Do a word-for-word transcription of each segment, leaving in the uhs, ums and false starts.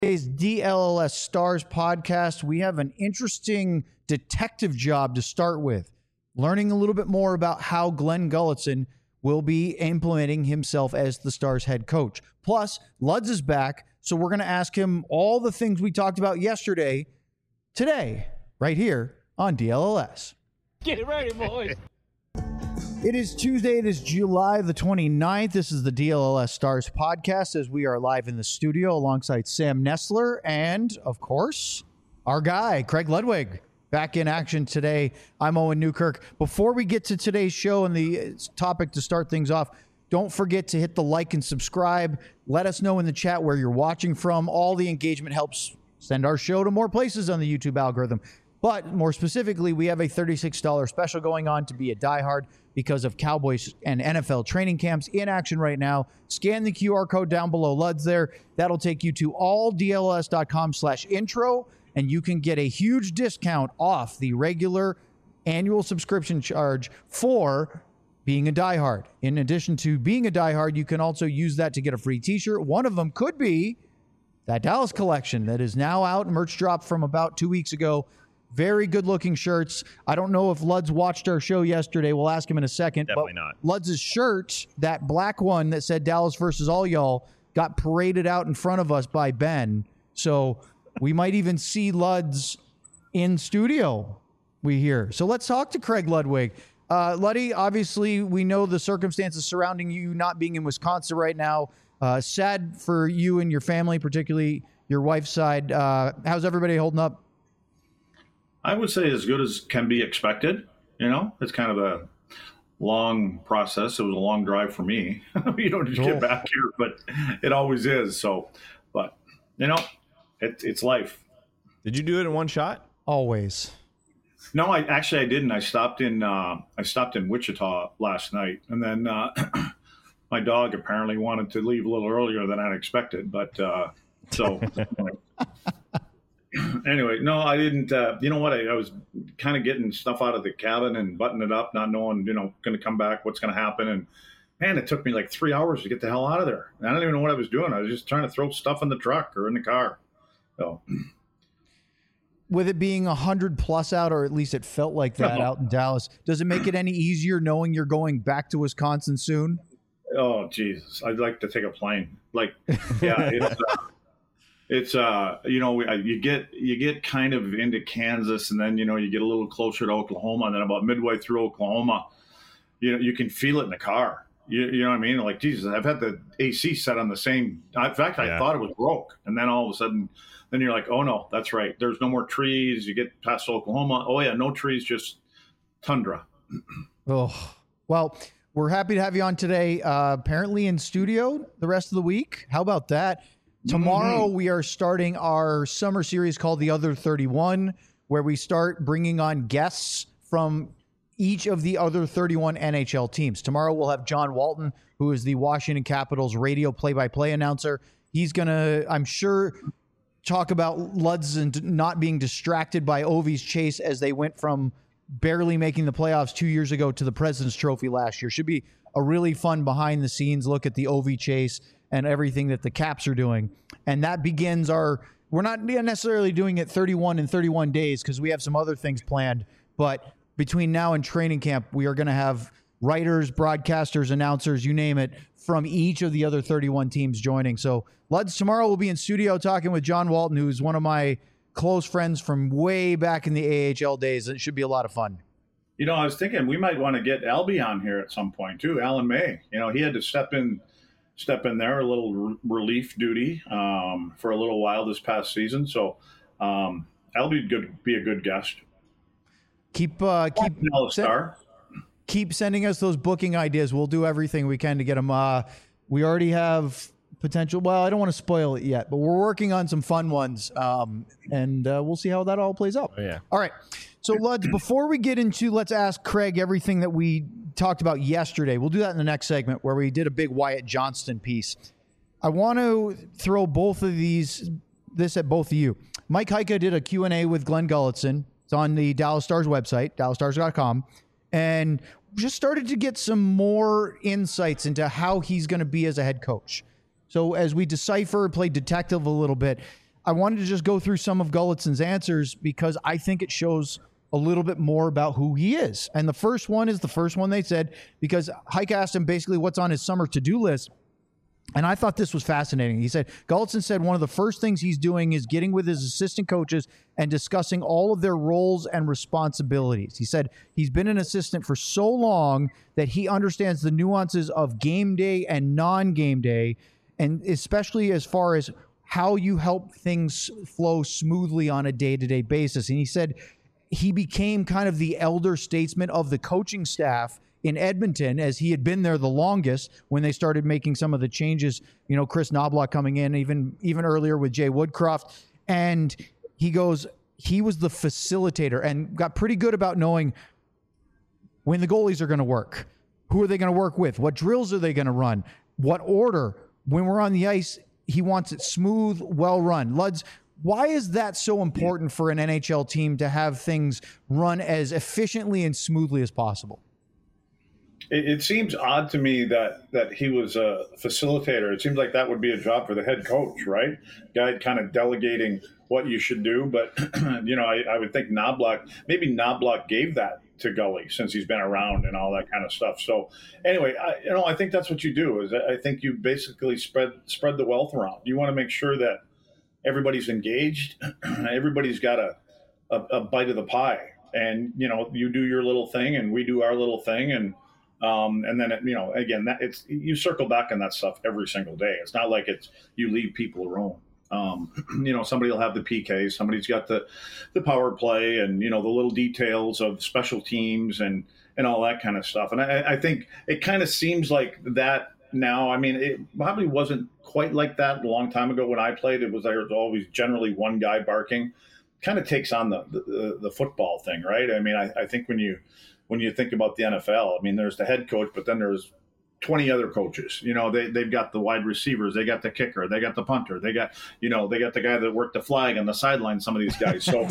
Today's D L L S Stars podcast, we have an interesting detective job to start with, learning a little bit more about how Glen Gulutzan will be implementing himself as the Stars head coach. Plus, Luds is back, so we're going to ask him all the things we talked about yesterday, today, right here on D L L S. Get ready, boys. It is Tuesday. It is July the twenty-ninth. This is the D L L S Stars podcast as we are live in the studio alongside Sam Nestler and, of course, our guy, Craig Ludwig, back in action today. I'm Owen Newkirk. Before we get to today's show and the topic to start things off, don't forget to hit the like and subscribe. Let us know in the chat where you're watching from. All the engagement helps send our show to more places on the YouTube algorithm. But more specifically, we have a thirty-six dollars special going on to be a diehard because of Cowboys and N F L training camps in action right now. Scan the Q R code down below Luds there. That'll take you to all D L L S dot com slash intro, and you can get a huge discount off the regular annual subscription charge for being a diehard. In addition to being a diehard, you can also use that to get a free t-shirt. One of them could be that Dallas collection that is now out, merch drop from about two weeks ago. Very good-looking shirts. I don't know if Luds watched our show yesterday. We'll ask him in a second. Definitely but not. Luds' shirt, that black one that said Dallas versus all y'all, got paraded out in front of us by Ben. So we might even see Luds in studio, we hear. So let's talk to Craig Ludwig. Uh, Luddy, obviously, we know the circumstances surrounding you not being in Wisconsin right now. Uh, sad for you and your family, particularly your wife's side. Uh, how's everybody holding up? I would say as good as can be expected. You know, it's kind of a long process. It was a long drive for me. You don't just Cool. get back here, but it always is. So, but you know, it, it's life. Did you do it in one shot? Always. No, I actually I didn't. I stopped in uh, I stopped in Wichita last night, and then uh, my dog apparently wanted to leave a little earlier than I'd expected. But uh, so. Anyway, no, I didn't. Uh, you know what? I, I was kind of getting stuff out of the cabin and buttoning it up, not knowing, you know, going to come back, what's going to happen. And man, it took me like three hours to get the hell out of there. And I don't even know what I was doing. I was just trying to throw stuff in the truck or in the car. So, with it being one hundred plus out, or at least it felt like that out in Dallas, does it make it any easier knowing you're going back to Wisconsin soon? Oh, Jesus. I'd like to take a plane. Like, yeah, it's, uh, It's uh you know you get you get kind of into Kansas, and then you know you get a little closer to Oklahoma, and then about midway through Oklahoma, you know you can feel it in the car. You, you know what I mean? Like, Jesus, I've had the A C set on the same. In fact, I Yeah. thought it was broke, and then all of a sudden, then you're like, oh no, that's right. There's no more trees. You get past Oklahoma. Oh yeah, no trees, just tundra. Oh, well, we're happy to have you on today. Uh, apparently in studio the rest of the week. How about that? Tomorrow we are starting our summer series called The Other thirty-one, where we start bringing on guests from each of the other thirty-one N H L teams. Tomorrow we'll have John Walton, who is the Washington Capitals radio play-by-play announcer. He's going to, I'm sure, talk about Luds and not being distracted by Ovi's chase as they went from barely making the playoffs two years ago to the President's Trophy last year. Should be a really fun behind-the-scenes look at the Ovi chase and everything that the Caps are doing. And that begins our, we're not necessarily doing it thirty-one in thirty-one days because we have some other things planned, but between now and training camp, we are going to have writers, broadcasters, announcers, you name it, from each of the other thirty-one teams joining. So Luds, tomorrow we'll be in studio talking with John Walton, who's one of my close friends from way back in the A H L days. It should be a lot of fun. You know, I was thinking we might want to get Albie on here at some point too. Alan May, you know, he had to step in. Step in there, a little re- relief duty um, for a little while this past season. So um, that'll be good. Be a good guest. Keep uh, keep star. keep sending us those booking ideas. We'll do everything we can to get them. Uh, we already have potential. Well, I don't want to spoil it yet, but we're working on some fun ones, um, and uh, we'll see how that all plays out. Oh, yeah. All right. So, Luds, before we get into, let's ask Craig everything that we talked about yesterday. We'll do that in the next segment where we did a big Wyatt Johnston piece. I want to throw both of these, this at both of you. Mike Heika did a Q and A with Glen Gulutzan. It's on the Dallas Stars website, dallas stars dot com, and just started to get some more insights into how he's going to be as a head coach. So as we decipher, play detective a little bit, I wanted to just go through some of Gullitson's answers because I think it shows a little bit more about who he is. And the first one is the first one they said, because Hike asked him basically what's on his summer to-do list. And I thought this was fascinating. He said, Gullitson said one of the first things he's doing is getting with his assistant coaches and discussing all of their roles and responsibilities. He said he's been an assistant for so long that he understands the nuances of game day and non-game day, and especially as far as how you help things flow smoothly on a day-to-day basis. And he said he became kind of the elder statesman of the coaching staff in Edmonton, as he had been there the longest when they started making some of the changes, you know, Chris Knobloch coming in, even even earlier with Jay Woodcroft. And he goes, he was the facilitator and got pretty good about knowing when the goalies are going to work, who are they going to work with, what drills are they going to run, what order. When we're on the ice, he wants it smooth, well run. Luds, why is that so important for an N H L team to have things run as efficiently and smoothly as possible? It, it seems odd to me that, that he was a facilitator. It seems like that would be a job for the head coach, right? Guy kind of delegating what you should do. But, you know, I, I would think Knobloch, maybe Knobloch gave that to Gully since he's been around and all that kind of stuff. So anyway, I, you know, I think that's what you do is I think you basically spread spread the wealth around. You want to make sure that everybody's engaged. Everybody's got a, a, a bite of the pie. And, you know, you do your little thing and we do our little thing. And, Um, and then, it, you know, again, that it's you circle back on that stuff every single day. It's not like it's you leave people alone. Um, you know, somebody will have the P K, somebody's got the, the power play and, you know, the little details of special teams and, and all that kind of stuff. And I, I think it kind of seems like that now. I mean, it probably wasn't quite like that a long time ago when I played. It was there was always generally one guy barking. Kind of takes on the, the, the football thing, right? I mean, I, I think when you when you think about the N F L, I mean, there's the head coach, but then there's twenty other coaches. You know, they, they've got the wide receivers, they got the kicker, they got the punter, they got, you know, they got the guy that worked the flag on the sideline, some of these guys. So,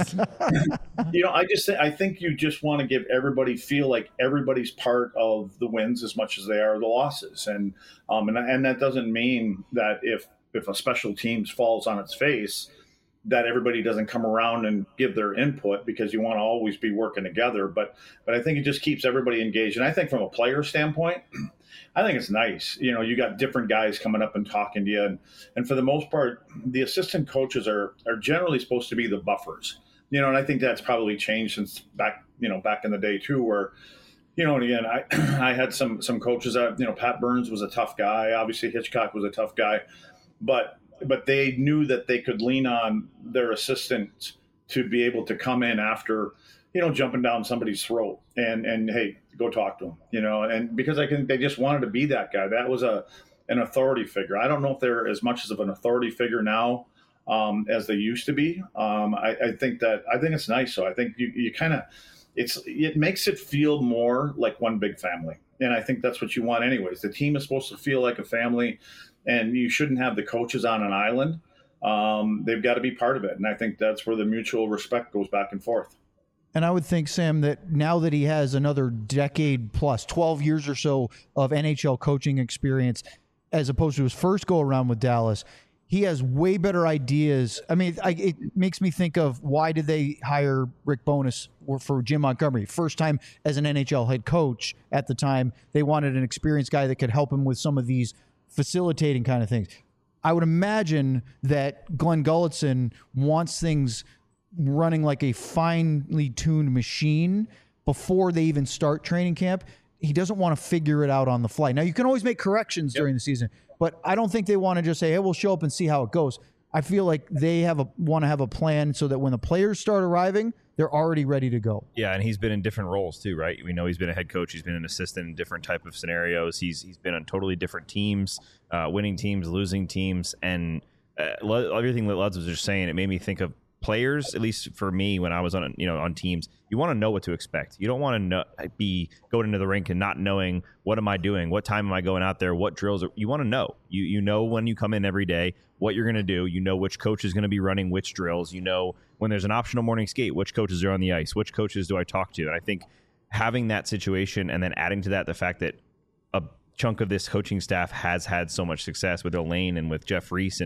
you know, I just I think you just want to give everybody feel like everybody's part of the wins as much as they are the losses. And um and, and that doesn't mean that if if a special teams falls on its face, that everybody doesn't come around and give their input, because you want to always be working together. But but I think it just keeps everybody engaged. And I think from a player standpoint, I think it's nice. You know, you got different guys coming up and talking to you. And, and for the most part, the assistant coaches are are generally supposed to be the buffers. You know, and I think that's probably changed since back, you know, back in the day too, where, you know, and again, I I had some some coaches that, you know, Pat Burns was a tough guy. Obviously, Hitchcock was a tough guy. But but they knew that they could lean on their assistant to be able to come in after, you know, jumping down somebody's throat and, and hey, go talk to them, you know, and because I can, they just wanted to be that guy. That was a, an authority figure. I don't know if they're as much as of an authority figure now um, as they used to be. Um, I, I think that, I think it's nice. So I think you, you kind of, it's, it makes it feel more like one big family. And I think that's what you want anyways. The team is supposed to feel like a family. And you shouldn't have the coaches on an island. Um, they've got to be part of it. And I think that's where the mutual respect goes back and forth. And I would think, Sam, that now that he has another decade plus, twelve years or so of N H L coaching experience, as opposed to his first go-around with Dallas, he has way better ideas. I mean, I, it makes me think of why did they hire Rick Bowness for Jim Montgomery? First time as an N H L head coach at the time, they wanted an experienced guy that could help him with some of these facilitating kind of things. I would imagine that Glenn Gullitson wants things running like a finely tuned machine before they even start training camp. He doesn't want to figure it out on the fly. Now, you can always make corrections yep. during the season, but I don't think they want to just say, hey, we'll show up and see how it goes. I feel like they have a want to have a plan so that when the players start arriving, they're already ready to go. Yeah, and he's been in different roles too, right? We know he's been a head coach. He's been an assistant in different type of scenarios. He's he's been on totally different teams, uh, winning teams, losing teams, and uh, everything that Luds was just saying, it made me think of players. At least for me, when I was on you know on teams, you want to know what to expect. You don't want to know, be going into the rink and not knowing what am I doing, what time am I going out there, what drills. Are, you want to know. You you know when you come in every day what you're going to do. You know which coach is going to be running which drills. You know when there's an optional morning skate, which coaches are on the ice, which coaches do I talk to. And I think having that situation and then adding to that the fact that a chunk of this coaching staff has had so much success with Elaine and with Jeff Reese, and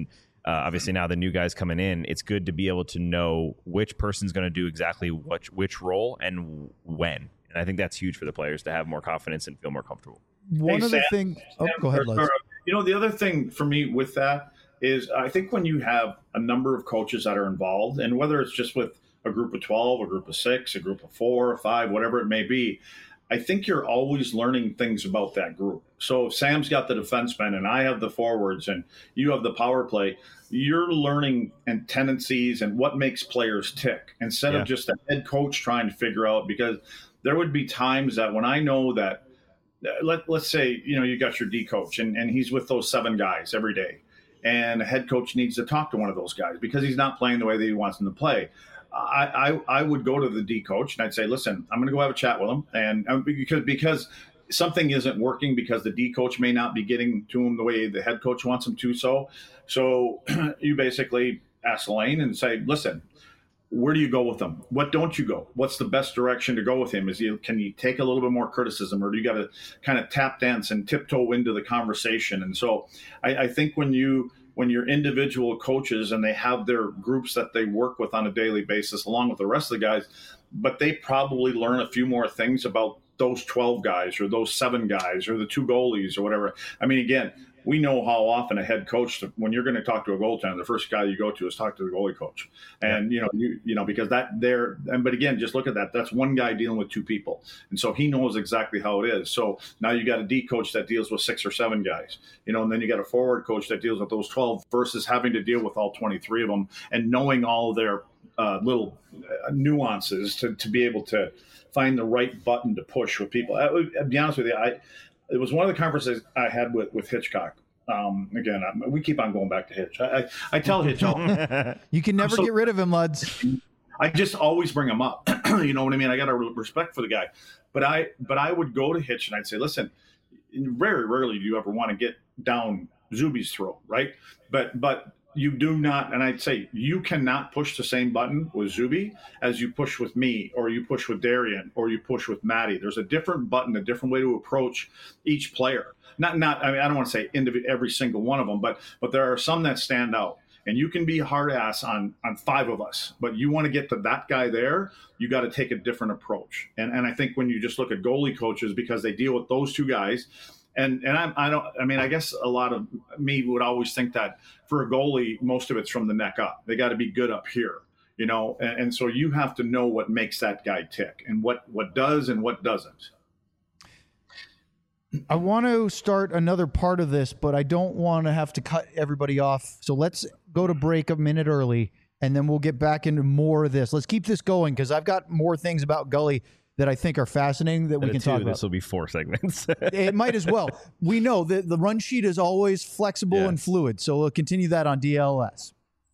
Uh, obviously, now the new guys coming in, it's good to be able to know which person's going to do exactly what, which role and when. And I think that's huge for the players to have more confidence and feel more comfortable. One Hey, of the Sam, things. Oh, Sam, go ahead, or- Les. or, You know, the other thing for me with that is I think when you have a number of coaches that are involved, and whether it's just with a group of twelve, a group of six, a group of four or five, whatever it may be, I think you're always learning things about that group. So if Sam's got the defensemen and I have the forwards and you have the power play, you're learning and tendencies and what makes players tick instead Yeah. of just a head coach trying to figure out, because there would be times that when I know that, let, let's say, you know, you got your D coach and, and he's with those seven guys every day, and a head coach needs to talk to one of those guys because he's not playing the way that he wants them to play. I, I, I would go to the D coach and I'd say, listen, I'm going to go have a chat with him. And um, because, because something isn't working because the D coach may not be getting to him the way the head coach wants him to. So, so you basically ask Lane and say, listen, where do you go with him? What don't you go? What's the best direction to go with him? Is he, can you take a little bit more criticism, or do you got to kind of tap dance and tiptoe into the conversation? And so I, I think when you, when you're individual coaches and they have their groups that they work with on a daily basis, along with the rest of the guys, but they probably learn a few more things about those twelve guys or those seven guys or the two goalies or whatever. I mean, again, we know how often a head coach, when you're going to talk to a goaltender, the first guy you go to is talk to the goalie coach. And, you know, you, you know, because that there, and, but again, just look at that. That's one guy dealing with two people. And so he knows exactly how it is. So now you got a D coach that deals with six or seven guys, you know, and then you got a forward coach that deals with those twelve versus having to deal with all twenty-three of them and knowing all their uh, little uh, nuances to, to be able to find the right button to push with people. I, I'll be honest with you. I, It was one of the conversations I had with, with Hitchcock. Um, again, I, we keep on going back to Hitch. I, I, I tell Hitch, all, You can never so- get rid of him, Luds. I just always bring him up. You know what I mean? I got a respect for the guy, but I but I would go to Hitch and I'd say, listen, very rarely do you ever want to get down Zuby's throat, right? But but you do not, and I'd say you cannot push the same button with Zuby as you push with me, or you push with Darian, or you push with Maddie. There's a different button, a different way to approach each player. Not, not. I mean, I don't want to say indiv- every single one of them, but but there are some that stand out. And you can be hard ass on on five of us, but you want to get to that guy there, you got to take a different approach. And and I think when you just look at goalie coaches, because they deal with those two guys. And and I, I don't. I mean, I guess a lot of me would always think that for a goalie, most of it's from the neck up. They got to be good up here, you know. And, and so you have to know what makes that guy tick, and what what does and what doesn't. I want to start another part of this, but I don't want to have to cut everybody off. So let's go to break a minute early, and then we'll get back into more of this. Let's keep this going because I've got more things about Gully that I think are fascinating that we can Two, talk about. This will be four segments. It might as well. We know that the run sheet is always flexible Yeah. and fluid, so we'll continue that on D L S.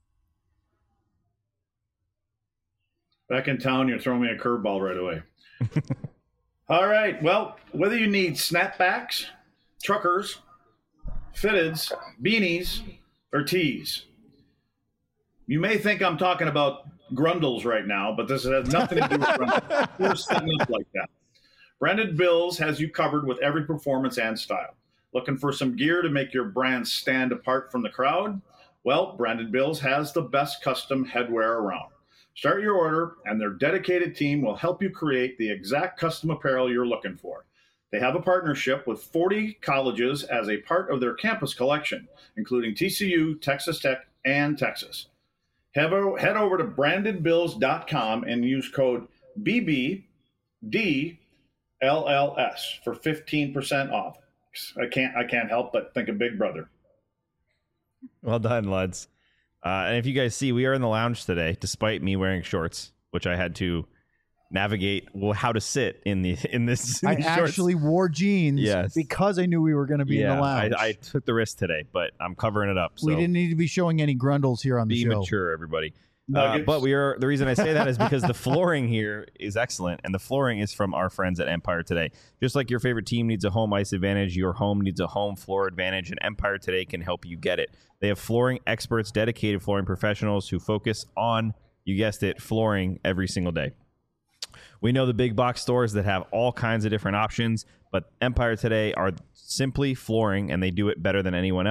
Back in town, you're throwing me a curveball right away. All right. Well, whether you need snapbacks, truckers, fitteds, beanies, or tees, you may think I'm talking about Grundles right now, but this has nothing to do with Grundles. We're setting up like that. Branded Bills has you covered with every performance and style. Looking for some gear to make your brand stand apart from the crowd? Well, Branded Bills has the best custom headwear around. Start your order, and their dedicated team will help you create the exact custom apparel you're looking for. They have a partnership with forty colleges as a part of their campus collection, including T C U, Texas Tech, and Texas. Head over to branded bills dot com and use code B B D L L S for fifteen percent off. I can't I can't help but think of Big Brother. Well done, lads. Uh, and if you guys see, we are in the lounge today, despite me wearing shorts, which I had to navigate well, how to sit in the in this. In I these shorts. actually wore jeans Yes. because I knew we were going to be yeah, in the lounge. I, I took the risk today, but I'm covering it up. So we didn't need to be showing any Grundles here on the be show. mature, everybody. Uh, Nuggets. but we are the reason I say that is because the flooring here is excellent, and the flooring is from our friends at Empire Today. Just like your favorite team needs a home ice advantage, your home needs a home floor advantage, and Empire Today can help you get it. They have flooring experts, dedicated flooring professionals who focus on, you guessed it, flooring every single day. We know the big box stores that have all kinds of different options, but Empire Today are simply flooring, and they do it better than anyone else.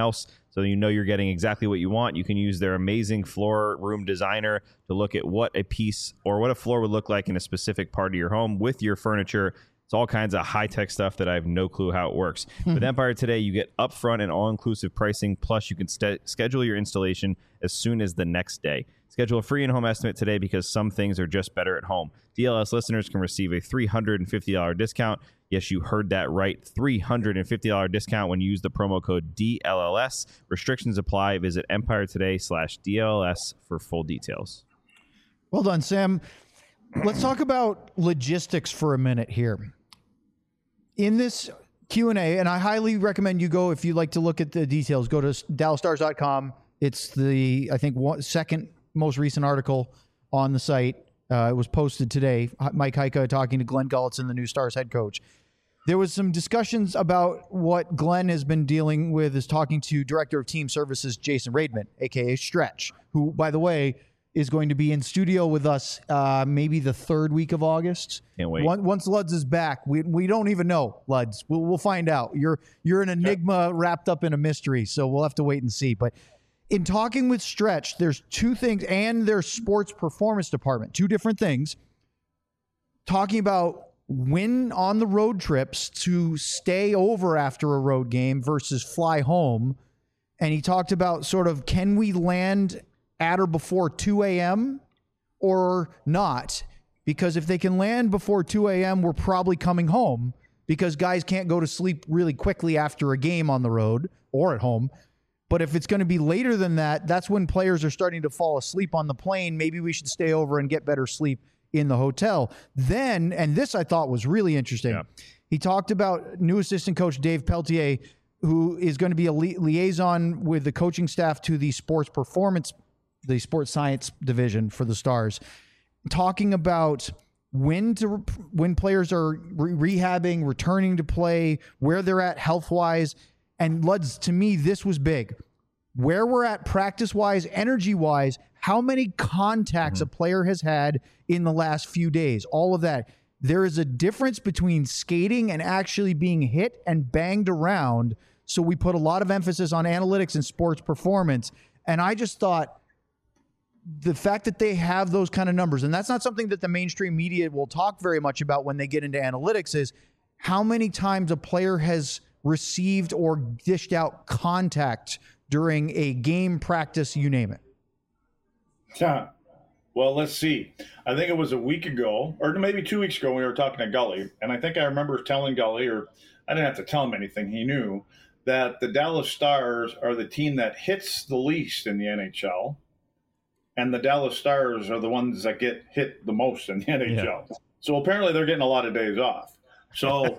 so you know you're getting exactly what you want. You can use their amazing floor room designer to look at what a piece or what a floor would look like in a specific part of your home with your furniture. It's all kinds of high-tech stuff that I have no clue how it works. With Empire Today, you get upfront and all-inclusive pricing, plus you can st- schedule your installation as soon as the next day. Schedule a free in-home estimate today because some things are just better at home. D L S listeners can receive a three hundred fifty dollars discount. Yes, you heard that right. three hundred fifty dollars discount when you use the promo code D L L S. Restrictions apply. Visit Empire Today slash D L L S for full details. Well done, Sam. Let's talk about logistics for a minute here. In this Q and A, and I highly recommend you go, if you'd like to look at the details, go to Dallas Stars dot com. It's the, I think, one, second most recent article on the site. Uh, it was posted today. Mike Heika talking to Glenn Gulletson, the new Stars head coach. There was some discussions about what Glenn has been dealing with, is talking to Director of Team Services Jason Raidman, a k a. Stretch, who, by the way, is going to be in studio with us uh, maybe the third week of August. Can't wait. Once, once Luds is back, we we don't even know, Luds. We'll, we'll find out. You're you're an enigma wrapped up in a mystery, so we'll have to wait and see. But in talking with Stretch, there's two things, and their sports performance department, two different things, talking about when on the road trips to stay over after a road game versus fly home. And he talked about sort of, can we land at or before two a.m. or not? Because if they can land before two a.m., we're probably coming home, because guys can't go to sleep really quickly after a game on the road or at home. But if it's going to be later than that, that's when players are starting to fall asleep on the plane. Maybe we should stay over and get better sleep in the hotel. Then, and this I thought was really interesting, yeah. He talked about new assistant coach Dave Peltier, who is going to be a li- liaison with the coaching staff to the sports performance, the sports science division for the Stars, talking about when to when players are re- rehabbing, returning to play, where they're at health-wise. And Luds, to me, this was big. Where we're at practice-wise, energy-wise, how many contacts mm-hmm. a player has had in the last few days, all of that. There is a difference between skating and actually being hit and banged around. So we put a lot of emphasis on analytics and sports performance. And I just thought the fact that they have those kind of numbers, and that's not something that the mainstream media will talk very much about when they get into analytics, is how many times a player has received or dished out contact during a game, practice, you name it. Yeah. Well, let's see. I think it was a week ago, or maybe two weeks ago, we were talking to Gully, and I think I remember telling Gully, or I didn't have to tell him anything, he knew, that the Dallas Stars are the team that hits the least in the N H L, and the Dallas Stars are the ones that get hit the most in the N H L. Yeah. So apparently they're getting a lot of days off. So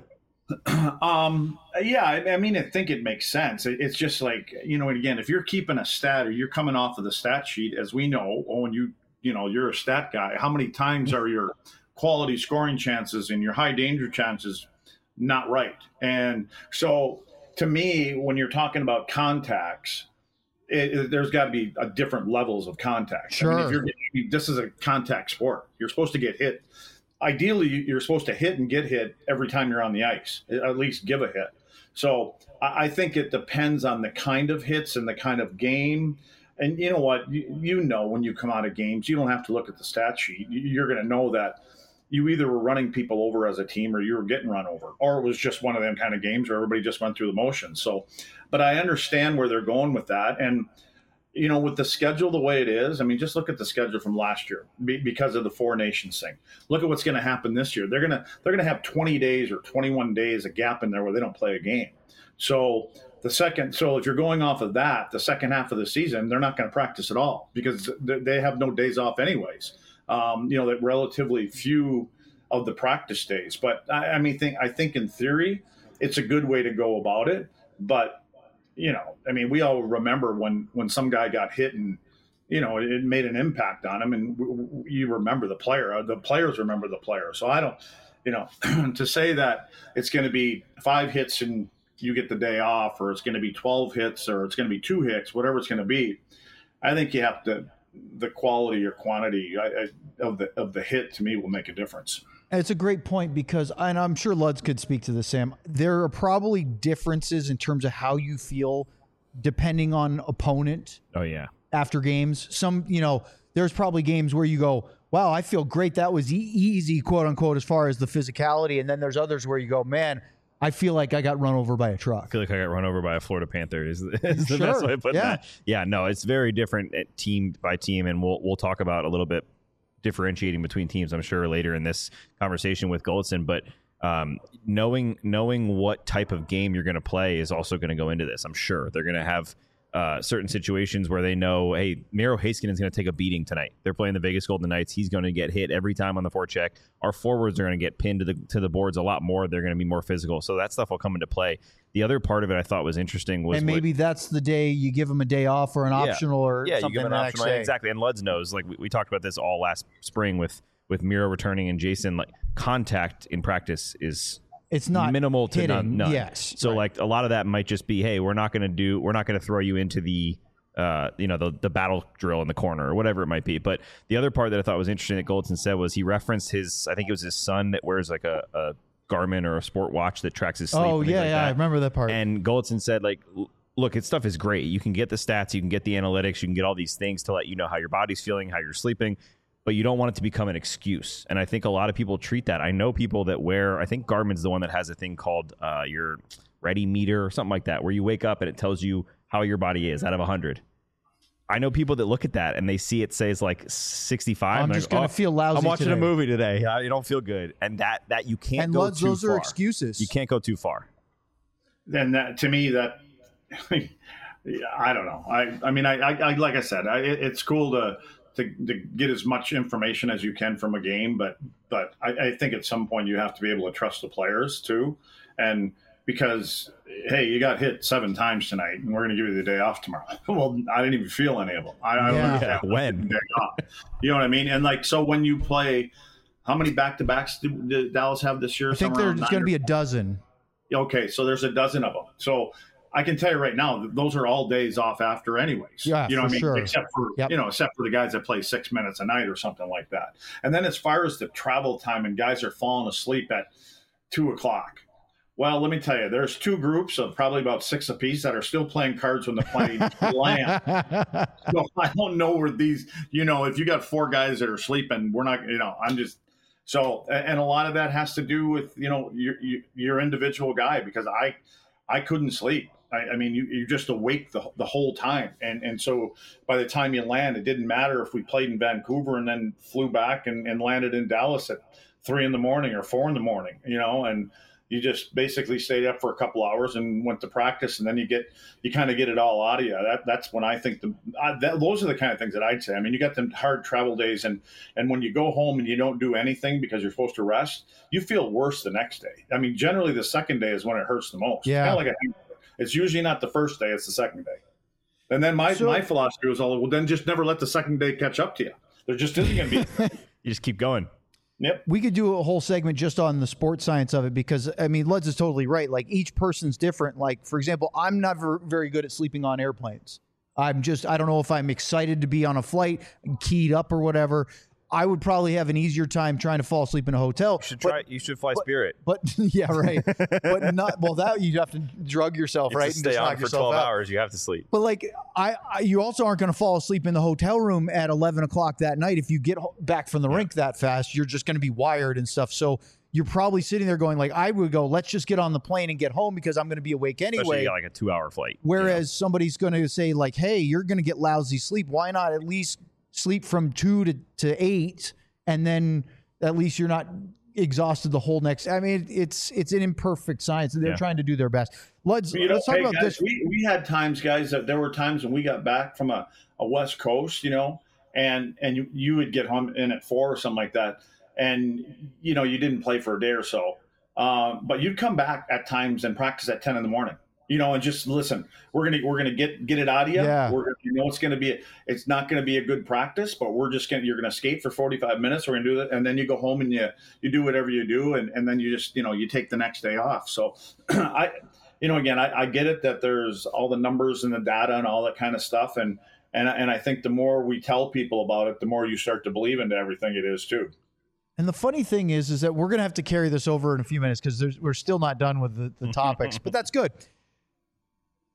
um, yeah, I, I mean, I think it makes sense. It, it's just like, you know, and again, if you're keeping a stat or you're coming off of the stat sheet, as we know, oh, and you, you know, you're a stat guy, how many times are your quality scoring chances and your high danger chances not right? And so to me, when you're talking about contacts, it, it, there's got to be a different levels of contact. Sure. I mean, if you're getting, this is a contact sport. You're supposed to get hit. Ideally, you're supposed to hit and get hit every time you're on the ice, at least give a hit. So I think it depends on the kind of hits and the kind of game. And you know what? You, you know when you come out of games, you don't have to look at the stat sheet. You're going to know that you either were running people over as a team or you were getting run over, or it was just one of them kind of games where everybody just went through the motions. So, but I understand where they're going with that. And you know, with the schedule the way it is, I mean, just look at the schedule from last year because of the Four Nations thing. Look at what's going to happen this year. They're going to they're going to have twenty days or twenty-one days a gap in there where they don't play a game. So the second, so if you're going off of that, the second half of the season, they're not going to practice at all because they have no days off anyways. Um, you know, that relatively few of the practice days. But I, I mean, think I think in theory, it's a good way to go about it, but. You know, I mean, we all remember when, when some guy got hit and, you know, it, it made an impact on him, and w- w- you remember the player. The players remember the player. So I don't, you know, to say that it's going to be five hits and you get the day off, or it's going to be twelve hits, or it's going to be two hits, whatever it's going to be, I think you have to, the quality or quantity I, I, of the of the hit to me will make a difference. It's a great point because, and I'm sure Luds could speak to this, Sam, there are probably differences in terms of how you feel depending on opponent. Oh yeah. After games, some, you know, there's probably games where you go, wow, I feel great. That was e- easy, quote unquote, as far as the physicality. And then there's others where you go, man, I feel like I got run over by a truck. I feel like I got run over by a Florida Panther is, is the Sure. best way to put Yeah. that. Yeah, no, it's very different at team by team, and we'll we'll talk about a little bit differentiating between teams, I'm sure, later in this conversation with Goldson. But um, knowing knowing what type of game you're going to play is also going to go into this. I'm sure they're going to have uh, certain situations where they know, hey, Miro Heiskanen is going to take a beating tonight. They're playing the Vegas Golden Knights. He's going to get hit every time on the forecheck. Our forwards are going to get pinned to the to the boards a lot more. They're going to be more physical. So that stuff will come into play. The other part of it I thought was interesting was And maybe what, that's the day you give them a day off or an Yeah. optional or yeah, you something give them the an next optional day. exactly. And Luds knows, like we, we talked about this all last spring with with Miro returning and Jason. Like contact in practice is It's not minimal to hitting, none. none. Yes. So right. like a lot of that might just be, hey, we're not going to do, we're not going to throw you into the, uh, you know, the the battle drill in the corner or whatever it might be. But the other part that I thought was interesting that Goldson said was he referenced his, I think it was his son that wears like a, a Garmin or a sport watch that tracks his sleep. Oh and things yeah, like yeah, that. I remember that part. And Goldson said, like, l- look, it stuff is great. You can get the stats, you can get the analytics, you can get all these things to let you know how your body's feeling, how you're sleeping, but you don't want it to become an excuse. And I think a lot of people treat that. I know people that wear, I think Garmin's the one that has a thing called uh, your Ready Meter or something like that, where you wake up and it tells you how your body is out of one hundred. I know people that look at that and they see it says like sixty-five. I'm and just they're gonna like, oh, feel lousy I'm watching today. a movie today. I don't feel good. And that that you can't and go Luds, too those far. are excuses. You can't go too far. Then that to me that I don't know. I I mean I, I, I like I said I, it, it's cool to, to to get as much information as you can from a game, but but I, I think at some point you have to be able to trust the players too, and because hey, you got hit seven times tonight, and we're going to give you the day off tomorrow. Well, I didn't even feel any of them. I, I don't Yeah. understand Yeah, when? the day off. You know what I mean? And like so when you play, how many back to backs did, did Dallas have this year? I think Somewhere there's around going to nine be a dozen. Okay, so there's a dozen of them. So I can tell you right now, that those are all days off after, anyways. Yeah, you know for what I mean? sure. Except for Yep. you know, except for the guys that play six minutes a night or something like that. And then as far as the travel time, and guys are falling asleep at two o'clock. Well, let me tell you, there's two groups of probably about six apiece that are still playing cards when the plane lands. So I don't know where these, you know, if you got four guys that are sleeping, we're not, you know, I'm just. So, and a lot of that has to do with, you know, your, your individual guy, because I, I couldn't sleep. I, I mean, you, you're just awake the, the whole time. And, and so by the time you land, it didn't matter if we played in Vancouver and then flew back and, and landed in Dallas at three in the morning or four in the morning, you know, and you just basically stayed up for a couple hours and went to practice, and then you get you kind of get it all out of you. That that's when I think the I, that, those are the kind of things that I'd say. I mean, you got them hard travel days, and and when you go home and you don't do anything because you're supposed to rest, you feel worse the next day. I mean, generally the second day is when it hurts the most. Yeah. Kind of like a, it's usually not the first day; it's the second day. And then my So- my philosophy was all, well, then just never let the second day catch up to you. There just isn't going to be. You just keep going. Yep. We could do a whole segment just on the sports science of it, because I mean, Luds is totally right. Like, each person's different. Like, for example, I'm never very good at sleeping on airplanes. I'm just, I don't know if I'm excited to be on a flight, keyed up or whatever. I would probably have an easier time trying to fall asleep in a hotel. You should But- try. you should fly Spirit. But yeah, right. But not, well, that you'd have to drug yourself, It's right? to stay on knock for yourself twelve out. hours. You have to sleep. But like, I, I you also aren't going to fall asleep in the hotel room at eleven o'clock that night. If you get ho- back from the rink that fast, you're just going to be wired and stuff. So you're probably sitting there going like, I would go, let's just get on the plane and get home because I'm going to be awake Especially anyway. you got like a two-hour flight. you know? Whereas somebody's going to say like, hey, you're going to get lousy sleep. Why not at least sleep from two to, to eight, and then at least you're not exhausted the whole next. I mean, it's it's an imperfect science, and they're Yeah. trying to do their best. Let's You know, let's talk hey, about guys, this. We, we had times, guys, that there were times when we got back from a, a West Coast, you know, and and you, you would get home in at four or something like that, and you know you didn't play for a day or so, um, but you'd come back at times and practice at ten in the morning, you know, and just listen. We're gonna we're gonna get get it out of you. Yeah. We're gonna, you know it's gonna be a, it's not gonna be a good practice, but we're just gonna you're gonna skate for forty-five minutes. We're gonna do that, and then you go home and you you do whatever you do, and and then you just you know you take the next day off. So I. You know, again, I, I get it that there's all the numbers and the data and all that kind of stuff, and and and I think the more we tell people about it, the more you start to believe into everything it is too. And the funny thing is, is that we're going to have to carry this over in a few minutes because we're still not done with the, the topics, but that's good.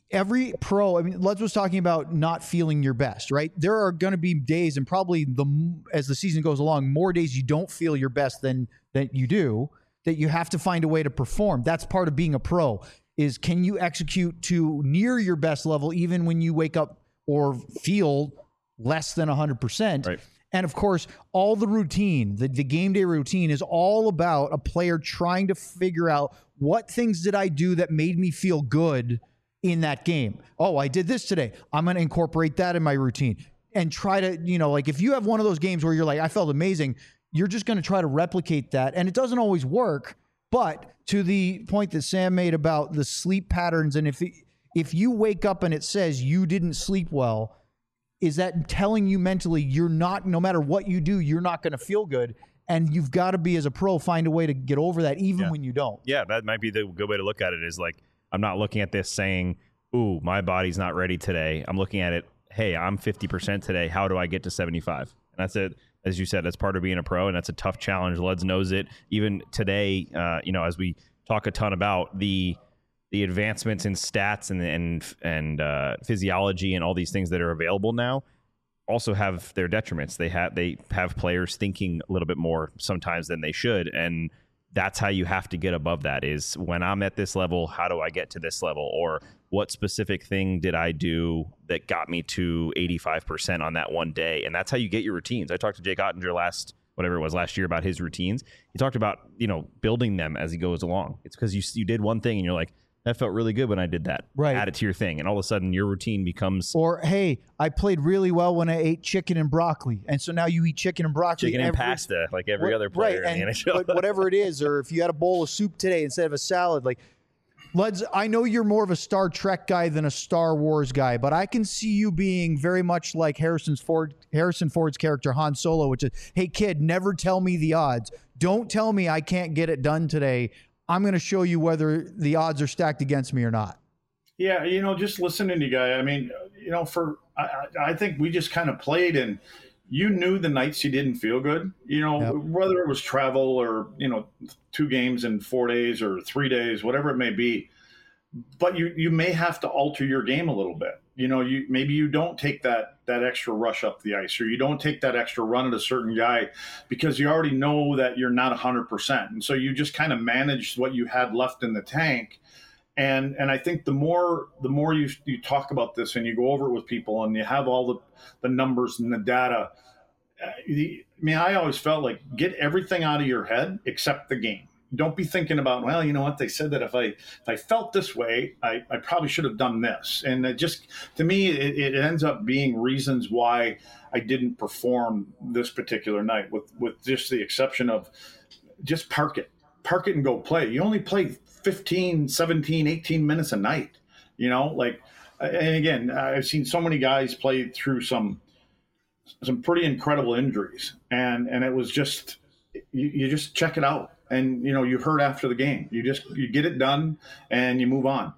every pro, I mean, Les was talking about not feeling your best, right? There are going to be days, and probably the as the season goes along, more days you don't feel your best than that you do, that you have to find a way to perform. That's part of being a pro, is can you execute to near your best level even when you wake up or feel less than one hundred percent. Right. And of course, all the routine, the, the game day routine is all about a player trying to figure out what things did I do that made me feel good in that game. Oh, I did this today. I'm going to incorporate that in my routine and try to, you know, like if you have one of those games where you're like, I felt amazing, you're just going to try to replicate that. And it doesn't always work. But to the point that Sam made about the sleep patterns, and if it, if you wake up and it says you didn't sleep well, is that telling you mentally you're not, no matter what you do, you're not going to feel good? And you've got to be, as a pro, find a way to get over that even yeah. when you don't. Yeah, that might be the good way to look at it, is like, I'm not looking at this saying, ooh, my body's not ready today. I'm looking at it, hey, I'm fifty percent today. How do I get to seventy-five? And that's it. As you said, that's part of being a pro, and that's a tough challenge. Luds knows it. Even today, uh, you know, as we talk a ton about the the advancements in stats and and and uh, physiology and all these things that are available now, also have their detriments. They have they have players thinking a little bit more sometimes than they should, and that's how you have to get above that, is when I'm at this level, how do I get to this level? Or what specific thing did I do that got me to eighty-five percent on that one day? And that's how you get your routines. I talked to Jake Ottinger last, whatever it was, last year about his routines. He talked about, you know, building them as he goes along. It's because you you did one thing and you're like, that felt really good when I did that. Right. Add it to your thing. And all of a sudden your routine becomes... Or, hey, I played really well when I ate chicken and broccoli. And so now you eat chicken and broccoli. Chicken and every, pasta, like every other player right, in and, the N H L. But whatever it is, or if you had a bowl of soup today instead of a salad, like, Luds, I know you're more of a Star Trek guy than a Star Wars guy, but I can see you being very much like Harrison's Ford, Harrison Ford's character Han Solo, which is, hey, kid, never tell me the odds. Don't tell me I can't get it done today. I'm going to show you whether the odds are stacked against me or not. Yeah, you know, just listening to you guys, I mean, you know, for I, I think we just kind of played, and you knew the nights you didn't feel good, you know, yep. whether it was travel or, you know, two games in four days or three days, whatever it may be. But you, you may have to alter your game a little bit. You know, you maybe you don't take that that extra rush up the ice, or you don't take that extra run at a certain guy because you already know that you're not one hundred percent. And so you just kind of manage what you had left in the tank. And and I think the more the more you you talk about this and you go over it with people and you have all the, the numbers and the data, I mean, I always felt like get everything out of your head except the game. Don't be thinking about, well, you know what, they said that if I if I felt this way, I, I probably should have done this. And it just, to me, it, it ends up being reasons why I didn't perform this particular night, with, with just the exception of just park it. Park it and go play. You only play fifteen, seventeen, eighteen minutes a night, you know, like, and again, I've seen so many guys play through some some pretty incredible injuries, and, and it was just, you, you just check it out. And, you know, you hurt after the game. You just, you get it done and you move on.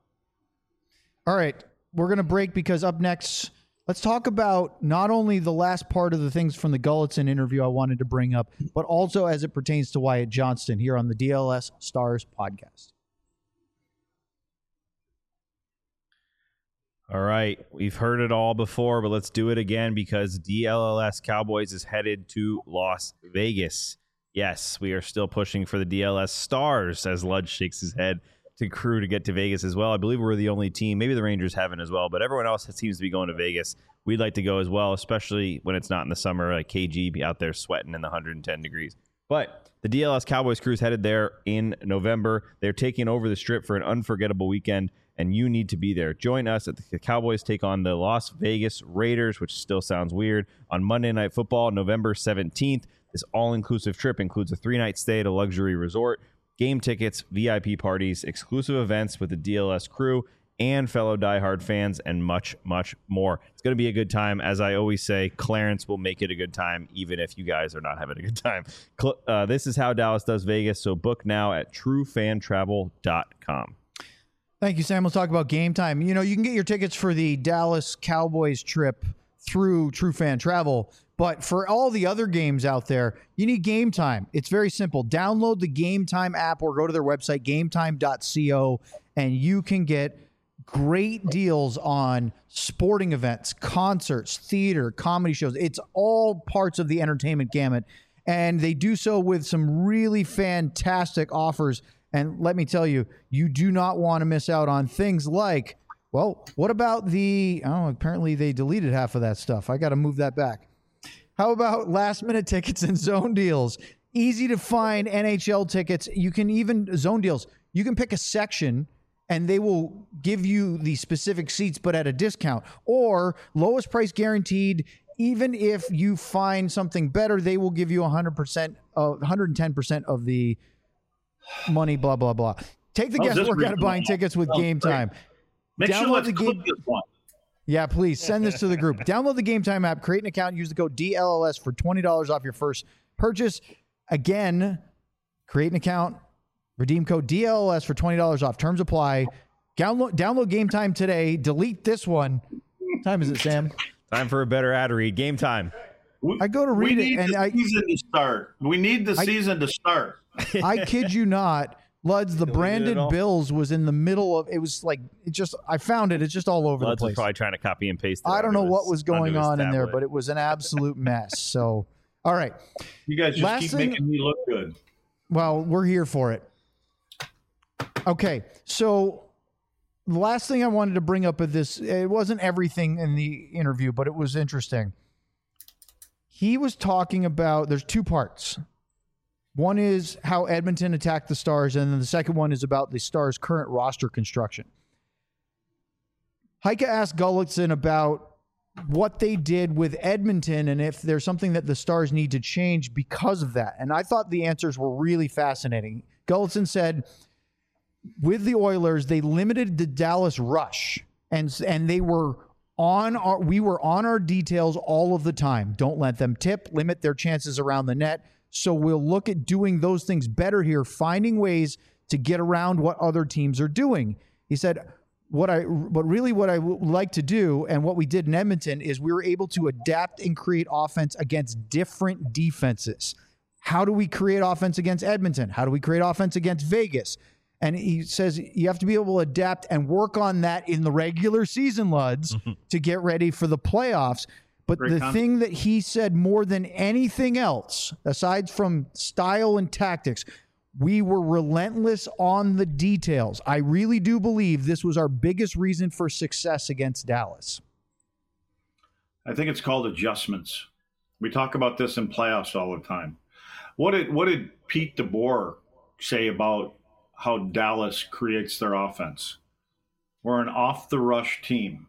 All right. We're going to break because up next, let's talk about not only the last part of the things from the Gulutzan interview I wanted to bring up, but also as it pertains to Wyatt Johnston here on the D L S Stars podcast. All right. We've heard it all before, but let's do it again because D L L S Cowboys is headed to Las Vegas. Yes, we are still pushing for the D L S Stars as Ludge shakes his head to crew to get to Vegas as well. I believe we're the only team. Maybe the Rangers haven't as well, but everyone else seems to be going to Vegas. We'd like to go as well, especially when it's not in the summer, like K G be out there sweating in the one hundred ten degrees. But the D L S Cowboys crew is headed there in November. They're taking over the Strip for an unforgettable weekend, and you need to be there. Join us at the Cowboys take on the Las Vegas Raiders, which still sounds weird, on Monday Night Football, November seventeenth. This all-inclusive trip includes a three-night stay at a luxury resort, game tickets, V I P parties, exclusive events with the D L S crew, and fellow diehard fans, and much, much more. It's going to be a good time. As I always say, Clarence will make it a good time, even if you guys are not having a good time. Uh, this is how Dallas does Vegas, so book now at true fan travel dot com. Thank you, Sam. We'll talk about game time. You know, you can get your tickets for the Dallas Cowboys trip through True Fan Travel. But for all the other games out there, you need Game Time. It's very simple. Download the Game Time app or go to their website, game time dot co, and you can get great deals on sporting events, concerts, theater, comedy shows. It's all parts of the entertainment gamut. And they do so with some really fantastic offers. And let me tell you, you do not want to miss out on things like, well, what about the, oh, apparently they deleted half of that stuff. I got to move that back. How about last minute tickets and zone deals? Easy to find N H L tickets. You can even zone deals. You can pick a section and they will give you the specific seats, but at a discount, or lowest price guaranteed. Even if you find something better, they will give you one hundred percent, uh, one hundred ten percent of the money, blah, blah, blah. Take the Oh, guesswork this out of buying tickets with Oh, Game great. Time. Make sure Download let's the click game. this one. Yeah, please send this to the group. Download the Game Time app, create an account, use the code D L L S for twenty dollars off your first purchase. Again, create an account, redeem code D L L S for twenty dollars off. Terms apply. Download, download Game Time today. Delete this one. What time is it, Sam? Time for a better ad read. Game time. We, I go to we read need it, and the I, season to start. We need the I- season to start. I kid you not, Luds, the Deleted it branded all? Bills was in the middle of, it was like, it just, I found it. It's just all over Luds the was place. probably trying to copy and paste it. I don't know onto what his- was going onto his on in there, tablet. but it was an absolute mess. So, all right. You guys just Last keep thing- making me look good. Well, we're here for it. Okay, so the last thing I wanted to bring up of this, it wasn't everything in the interview, but it was interesting. He was talking about, there's two parts. One is how Edmonton attacked the Stars, and then the second one is about the Stars' current roster construction. Heike asked Gullikson about what they did with Edmonton and if there's something that the Stars need to change because of that. And I thought the answers were really fascinating. Gullikson said, with the Oilers, they limited the Dallas rush, and and they were on our we were on our details all of the time. Don't let them tip, limit their chances around the net. So we'll look at doing those things better here, finding ways to get around what other teams are doing. He said, what I but really what I would like to do, and what we did in Edmonton, is we were able to adapt and create offense against different defenses. How do we create offense against Edmonton? How do we create offense against Vegas? And he says you have to be able to adapt and work on that in the regular season, Luds, to get ready for the playoffs. But Great the comment. thing that he said more than anything else, aside from style and tactics, we were relentless on the details. I really do believe this was our biggest reason for success against Dallas. I think it's called adjustments. We talk about this in playoffs all the time. What did what did Pete DeBoer say about how Dallas creates their offense? We're an off the rush team.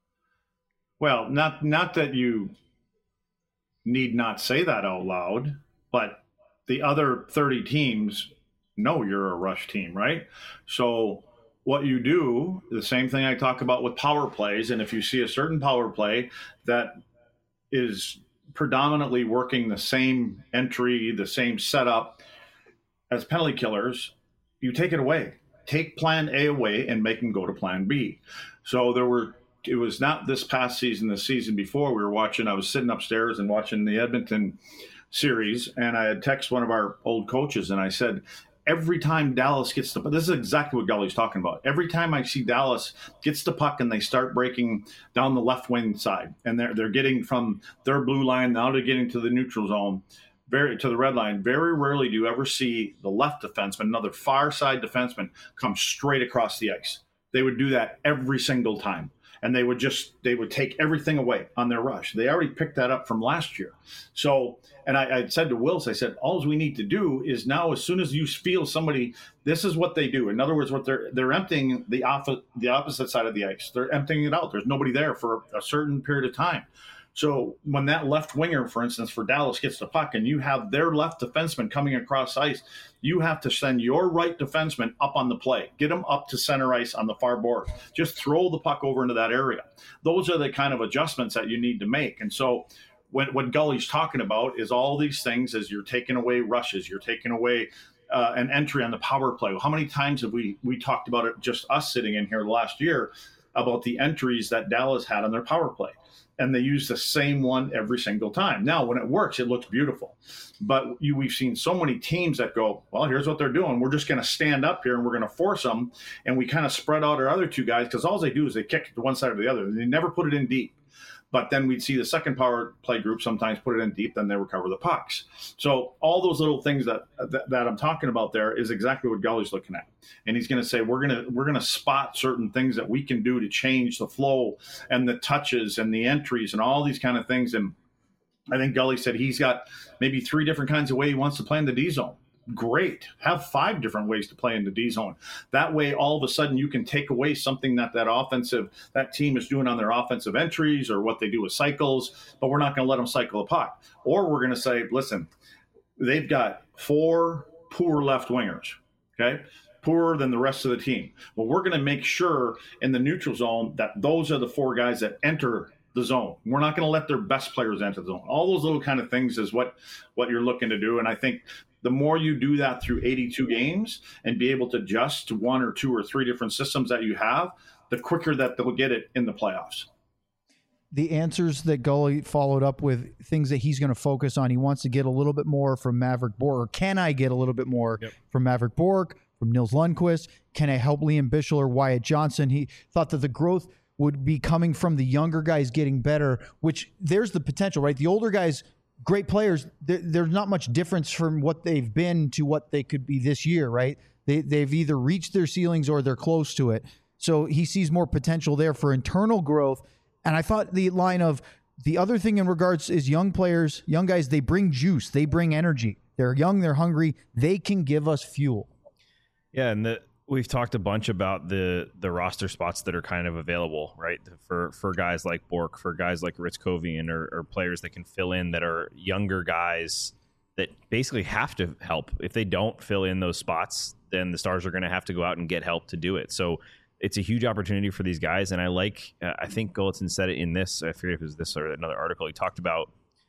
Well, not not that you need not say that out loud, but the other thirty teams know you're a rush team, right? So what you do, the same thing I talk about with power plays, and if you see a certain power play that is predominantly working the same entry, the same setup as penalty killers, you take it away. Take plan A away and make them go to plan B. So there were, it was not this past season, the season before we were watching, I was sitting upstairs and watching the Edmonton series, and I had texted one of our old coaches and I said, every time Dallas gets the, this is exactly what Gully's talking about. Every time I see Dallas gets the puck and they start breaking down the left wing side, and they're they're getting from their blue line now to getting to the neutral zone, very to the red line. Very rarely do you ever see the left defenseman, another far side defenseman, come straight across the ice. They would do that every single time. And they would just, they would take everything away on their rush. They already picked that up from last year. So, and I, I said to Wills, I said, all we need to do is now, as soon as you feel somebody, this is what they do. In other words, what they're, they're emptying the off, the opposite side of the ice. They're emptying it out. There's nobody there for a certain period of time. So when that left winger, for instance, for Dallas gets the puck and you have their left defenseman coming across ice, you have to send your right defenseman up on the play. Get him up to center ice on the far board. Just throw the puck over into that area. Those are the kind of adjustments that you need to make. And so when, what Gully's talking about is all these things as you're taking away rushes, you're taking away uh, an entry on the power play. How many times have we we talked about it, just us sitting in here last year, about the entries that Dallas had on their power play. And they use the same one every single time. Now, when it works, it looks beautiful. But you, we've seen so many teams that go, well, here's what they're doing. We're just going to stand up here and we're going to force them. And we kind of spread out our other two guys because all they do is they kick it to one side or the other. They never put it in deep. But then we'd see the second power play group sometimes put it in deep, then they recover the pucks. So all those little things that that, that I'm talking about there is exactly what Gully's looking at. And he's going to say, we're going to we're going to spot certain things that we can do to change the flow and the touches and the entries and all these kind of things. And I think Gully said he's got maybe three different kinds of way he wants to play in the D zone. Great. Have five different ways to play in the D zone. That way, all of a sudden, you can take away something that that offensive, that team is doing on their offensive entries or what they do with cycles, but we're not going to let them cycle a puck. Or we're going to say, listen, they've got four poor left wingers, okay? Poorer than the rest of the team. Well, we're going to make sure in the neutral zone that those are the four guys that enter the zone. We're not going to let their best players enter the zone. All those little kind of things is what, what you're looking to do. And I think the more you do that through eighty-two games and be able to adjust to one or two or three different systems that you have, the quicker that they'll get it in the playoffs. The answers that Gully followed up with, things that he's going to focus on. He wants to get a little bit more from Maverick Bourque. Or can I get a little bit more yep. from Maverick Bourque, from Nils Lundqvist? Can I help Liam Bichsel or Wyatt Johnson? He thought that the growth would be coming from the younger guys getting better, which there's the potential, right? The older guys, great players, there, there's not much difference from what they've been to what they could be this year, right? They, they've either reached their ceilings or they're close to it. So he sees more potential there for internal growth. And I thought the line of the other thing in regards is young players, young guys, they bring juice, they bring energy. They're young, they're hungry, they can give us fuel. Yeah, and the, we've talked a bunch about the the roster spots that are kind of available, right? For for guys like Bourque, for guys like Ritzkovian, or, or players that can fill in that are younger guys that basically have to help. If they don't fill in those spots, then the Stars are going to have to go out and get help to do it. So it's a huge opportunity for these guys. And I like, uh, I think Gulutzan said it in this, I forget if it was this or another article. He talked about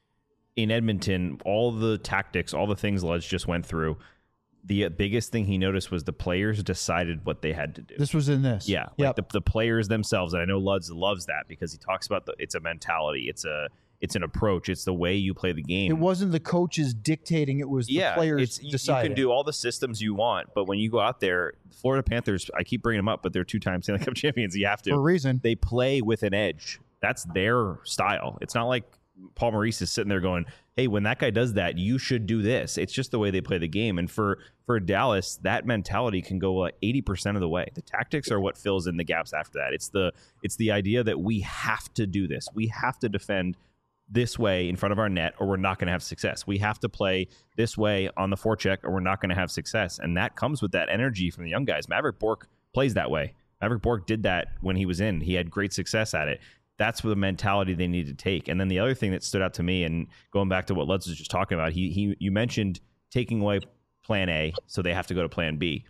in Edmonton, all the tactics, all the things Lutz just went through. The biggest thing he noticed was the players decided what they had to do. This was in this. Yeah. Yep. Like the, the players themselves. And I know Lutz loves that because he talks about the, it's a mentality. It's a, it's an approach. It's the way you play the game. It wasn't the coaches dictating. It was the yeah, players it's, you, deciding. You can do all the systems you want, but when you go out there, Florida Panthers, I keep bringing them up, but they're two-time Stanley Cup champions. You have to. For a reason. They play with an edge. That's their style. It's not like Paul Maurice is sitting there going, hey, when that guy does that, you should do this. It's just the way they play the game. And for, for Dallas, that mentality can go like eighty percent of the way. The tactics are what fills in the gaps after that. It's the it's the idea that we have to do this. We have to defend this way in front of our net or we're not going to have success. We have to play this way on the forecheck or we're not going to have success. And that comes with that energy from the young guys. Maverick Bourque plays that way. Maverick Bourque did that when he was in. He had great success at it. That's the mentality they need to take. And then the other thing that stood out to me, and going back to what Lutz was just talking about, he he you mentioned taking away plan A, so they have to go to plan B.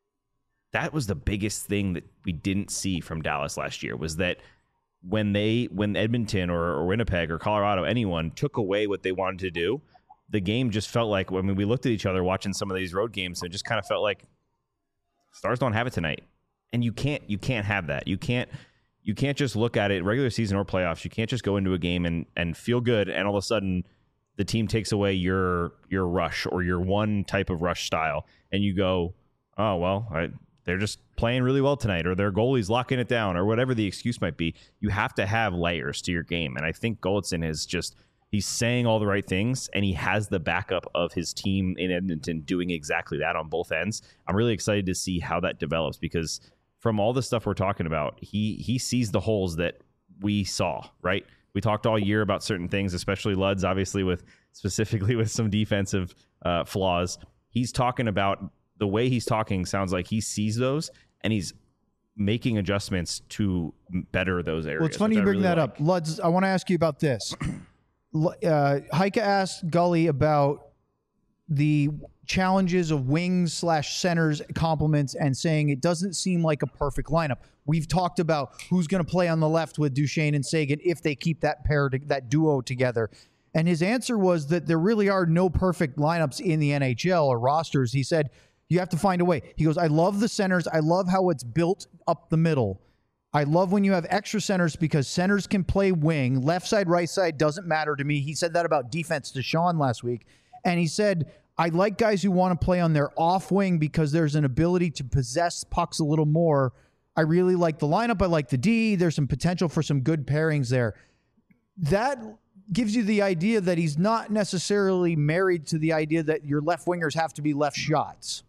That was the biggest thing that we didn't see from Dallas last year, was that when they when Edmonton or, or Winnipeg or Colorado, anyone took away what they wanted to do, the game just felt like, I mean, we looked at each other watching some of these road games and it just kind of felt like Stars don't have it tonight. And you can't you can't have that. You can't You can't just look at it, regular season or playoffs. You can't just go into a game and, and feel good, and all of a sudden the team takes away your your rush or your one type of rush style, and you go, oh, well, I, they're just playing really well tonight, or their goalie's locking it down, or whatever the excuse might be. You have to have layers to your game, and I think Gulutzan is just, he's saying all the right things, and he has the backup of his team in Edmonton doing exactly that on both ends. I'm really excited to see how that develops, because from all the stuff we're talking about, he he sees the holes that we saw, right? We talked all year about certain things, especially Luds, obviously, with specifically with some defensive uh, flaws. He's talking about, the way he's talking sounds like he sees those and he's making adjustments to better those areas. Well, it's funny you bring really that like. up. Luds, I want to ask you about this. uh, Heike asked Gully about the challenges of wings slash centers compliments and saying it doesn't seem like a perfect lineup. We've talked about who's going to play on the left with Duchesne and Sagan if they keep that pair, to, that duo together. And his answer was that there really are no perfect lineups in the N H L or rosters. He said, you have to find a way. He goes, I love the centers. I love how it's built up the middle. I love when you have extra centers because centers can play wing. Left side, right side doesn't matter to me. He said that about defense to Sean last week. And he said, I like guys who want to play on their off wing because there's an ability to possess pucks a little more. I really like the lineup. I like the D. There's some potential for some good pairings there. That gives you the idea that he's not necessarily married to the idea that your left wingers have to be left shots.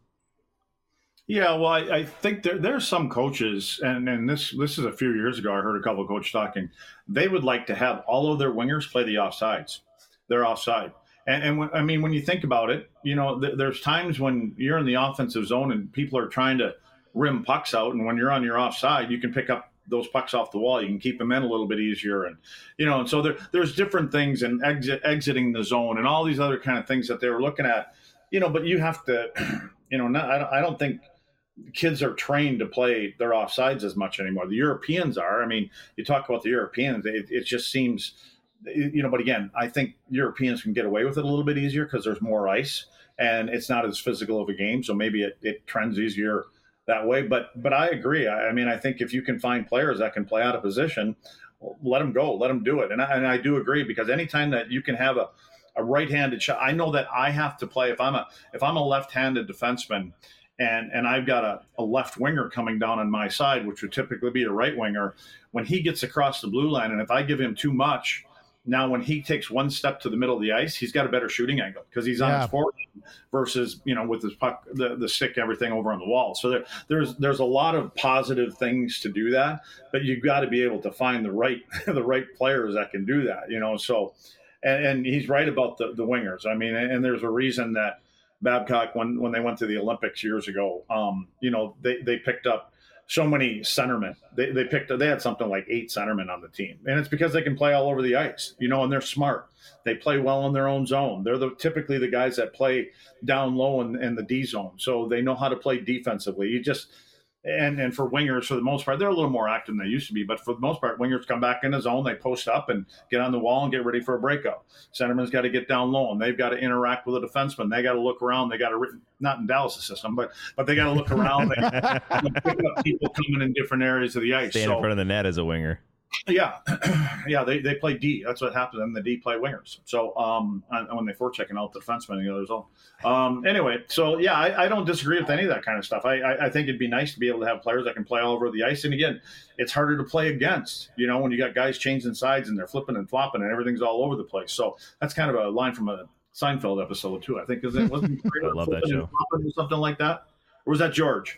Yeah, well, I, I think there there's some coaches, and, and this this is a few years ago. I heard a couple of coaches talking. They would like to have all of their wingers play the offsides. They're offside, and and when, I mean when you think about it, you know, th- there's times when you're in the offensive zone and people are trying to rim pucks out, and when you're on your offside, you can pick up those pucks off the wall. You can keep them in a little bit easier, and you know, and so there there's different things, and exit exiting the zone, and all these other kind of things that they were looking at, you know. But you have to, you know, not, I don't, I don't think kids are trained to play their offsides as much anymore. The Europeans are. I mean, you talk about the Europeans, it, it just seems, you know, but again, I think Europeans can get away with it a little bit easier because there's more ice and it's not as physical of a game. So maybe it, it trends easier that way. But, but I agree. I, I mean, I think if you can find players that can play out of position, let them go, let them do it. And I, and I do agree, because anytime that you can have a, a right-handed shot, I know that I have to play, if I'm a, if I'm a left-handed defenseman, And and I've got a, a left winger coming down on my side, which would typically be a right winger. When he gets across the blue line, and if I give him too much, now when he takes one step to the middle of the ice, he's got a better shooting angle because he's on Yeah. his forward versus, you know, with his puck, the, the stick, everything over on the wall. So there, there's there's a lot of positive things to do that, but you've got to be able to find the right the right players that can do that, you know. So, and, and he's right about the, the wingers. I mean, and, and there's a reason that Babcock, when, when they went to the Olympics years ago, um, you know, they, they picked up so many centermen. They they picked they had something like eight centermen on the team, and it's because they can play all over the ice, you know, and they're smart. They play well in their own zone. They're the typically the guys that play down low in, in the D zone, so they know how to play defensively. You just and and for wingers, for the most part, they're a little more active than they used to be. But for the most part, wingers come back in the zone, they post up and get on the wall and get ready for a breakout. Centerman's got to get down low, and they've got to interact with a defenseman. They got to look around. They got to not in Dallas' system, but but they got to look around. They pick up people coming in different areas of the ice. Stand so, in front of the net as a winger. Yeah, yeah, they, they play D. That's what happens, and the D play wingers. So um, when they forechecking out the defenseman in the other zone. Um, anyway, so yeah, I, I don't disagree with any of that kind of stuff. I, I I think it'd be nice to be able to have players that can play all over the ice. And again, it's harder to play against. You know, when you got guys changing sides and they're flipping and flopping and everything's all over the place. So that's kind of a line from a Seinfeld episode too. I think is it wasn't I love that show. or something like that, or was that George?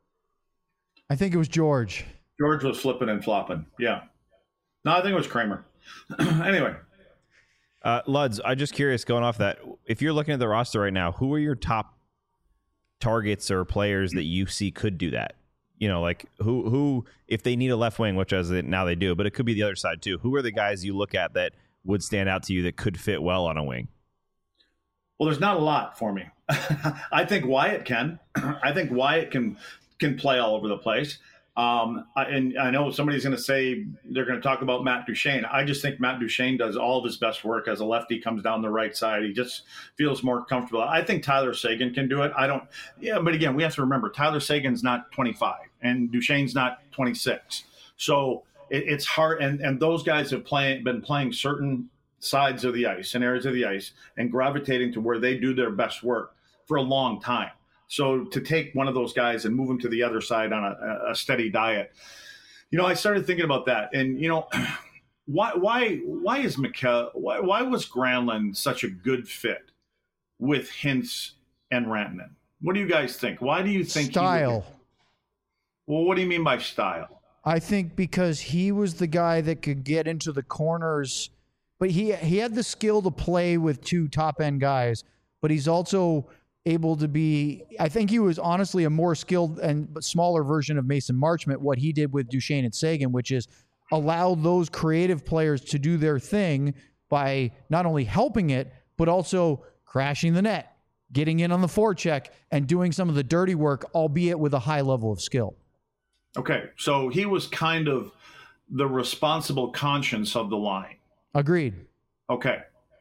I think it was George. George was flipping and flopping. Yeah. No, I think it was Kramer. Anyway. Uh, Luds, I'm just curious, going off that, if you're looking at the roster right now, who are your top targets or players that you see could do that? You know, like who, who if they need a left wing, which as it, now they do, but it could be the other side too. Who are the guys you look at that would stand out to you that could fit well on a wing? Well, there's not a lot for me. I think Wyatt can. I think Wyatt can can play all over the place. Um, I, and I know somebody's going to say they're going to talk about Matt Duchene. I just think Matt Duchene does all of his best work as a lefty, comes down the right side. He just feels more comfortable. I think Tyler Seguin can do it. I don't, yeah, but again, we have to remember Tyler Sagan's not twenty-five and Duchene's not twenty-six. So it, it's hard. And, and those guys have play, been playing certain sides of the ice and areas of the ice and gravitating to where they do their best work for a long time. So to take one of those guys and move him to the other side on a, a steady diet, you know, I started thinking about that. And, you know, why why why is Mikkel, why, why was Granlund such a good fit with Hintz and Rantanen? What do you guys think? Why do you think Style. He well, what do you mean by style? I think because he was the guy that could get into the corners, but he he had the skill to play with two top end guys, but he's also able to be, I think he was honestly a more skilled and smaller version of Mason Marchment, what he did with Duchene and Seguin, which is allow those creative players to do their thing by not only helping it, but also crashing the net, getting in on the forecheck, and doing some of the dirty work, albeit with a high level of skill. Okay, so he was kind of the responsible conscience of the line. Agreed. Okay.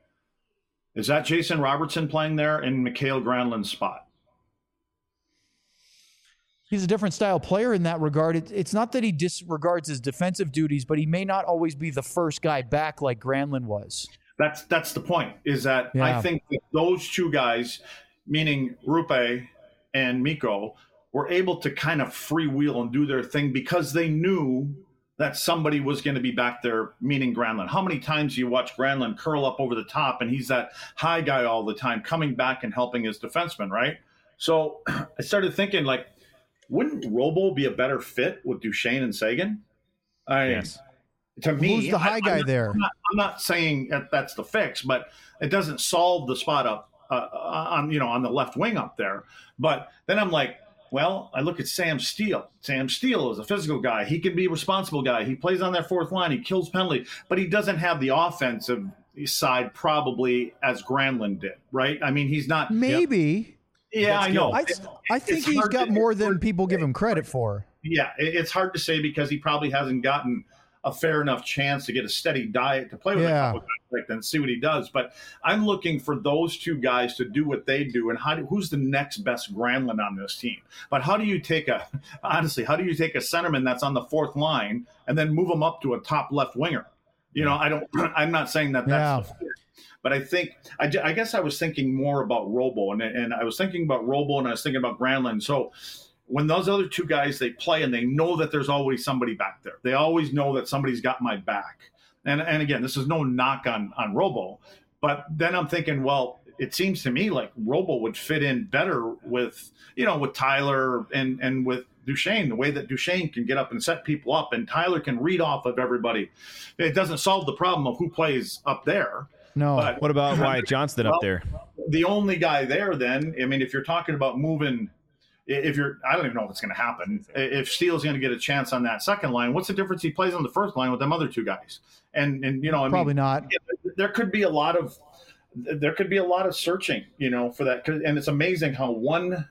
Is that Jason Robertson playing there in Mikhail Granlund's spot? He's a different style player in that regard. It, it's not that he disregards his defensive duties, but he may not always be the first guy back like Granlund was. That's that's the point, is that Yeah. I think that those two guys, meaning Rupe and Mikko, were able to kind of freewheel and do their thing because they knew that somebody was going to be back there, meaning Granlund. How many times do you watch Granlund curl up over the top and he's that high guy all the time, coming back and helping his defenseman, right? So I started thinking, like, wouldn't Robo be a better fit with Duchesne and Sagan? I, Yes. To me, Who's the high I, guy I'm not, there? I'm not, I'm not saying that that's the fix, but it doesn't solve the spot up uh, on you know on the left wing up there. But then I'm like, well, I look at Sam Steele. Sam Steele is a physical guy. He can be a responsible guy. He plays on that fourth line. He kills penalty, but he doesn't have the offensive side probably as Granlund did, right? I mean, he's not. Maybe. Yeah, I know. I, It- I think it's he's hard got to- more it's than hard to people give say. him credit for. Yeah, it- it's hard to say because he probably hasn't gotten a fair enough chance to get a steady diet to play with Yeah. a couple guys like that and see what he does. But I'm looking for those two guys to do what they do. And how do, who's the next best Granlund on this team? But how do you take a, honestly, how do you take a centerman that's on the fourth line and then move him up to a top left winger? You know, I don't, I'm not saying that that's Yeah. the fit. But I think, I, ju- I guess I was thinking more about Robo, and, and I was thinking about Robo and I was thinking about Granlund. So when those other two guys, they play and they know that there's always somebody back there. They always know that somebody's got my back. And and again, this is no knock on, on Robo, but then I'm thinking, well, it seems to me like Robo would fit in better with, you know, with Tyler and, and with Duchesne, the way that Duchesne can get up and set people up and Tyler can read off of everybody. It doesn't solve the problem of who plays up there. No. But What about Wyatt Johnston well, up there? The only guy there then, I mean, if you're talking about moving – if you're, I don't even know if it's going to happen. If Steele's going to get a chance on that second line, what's the difference? He plays on the first line with them other two guys, and and you know, I Probably mean, not. yeah, there could be a lot of, there could be a lot of searching, you know, for that. And it's amazing how one,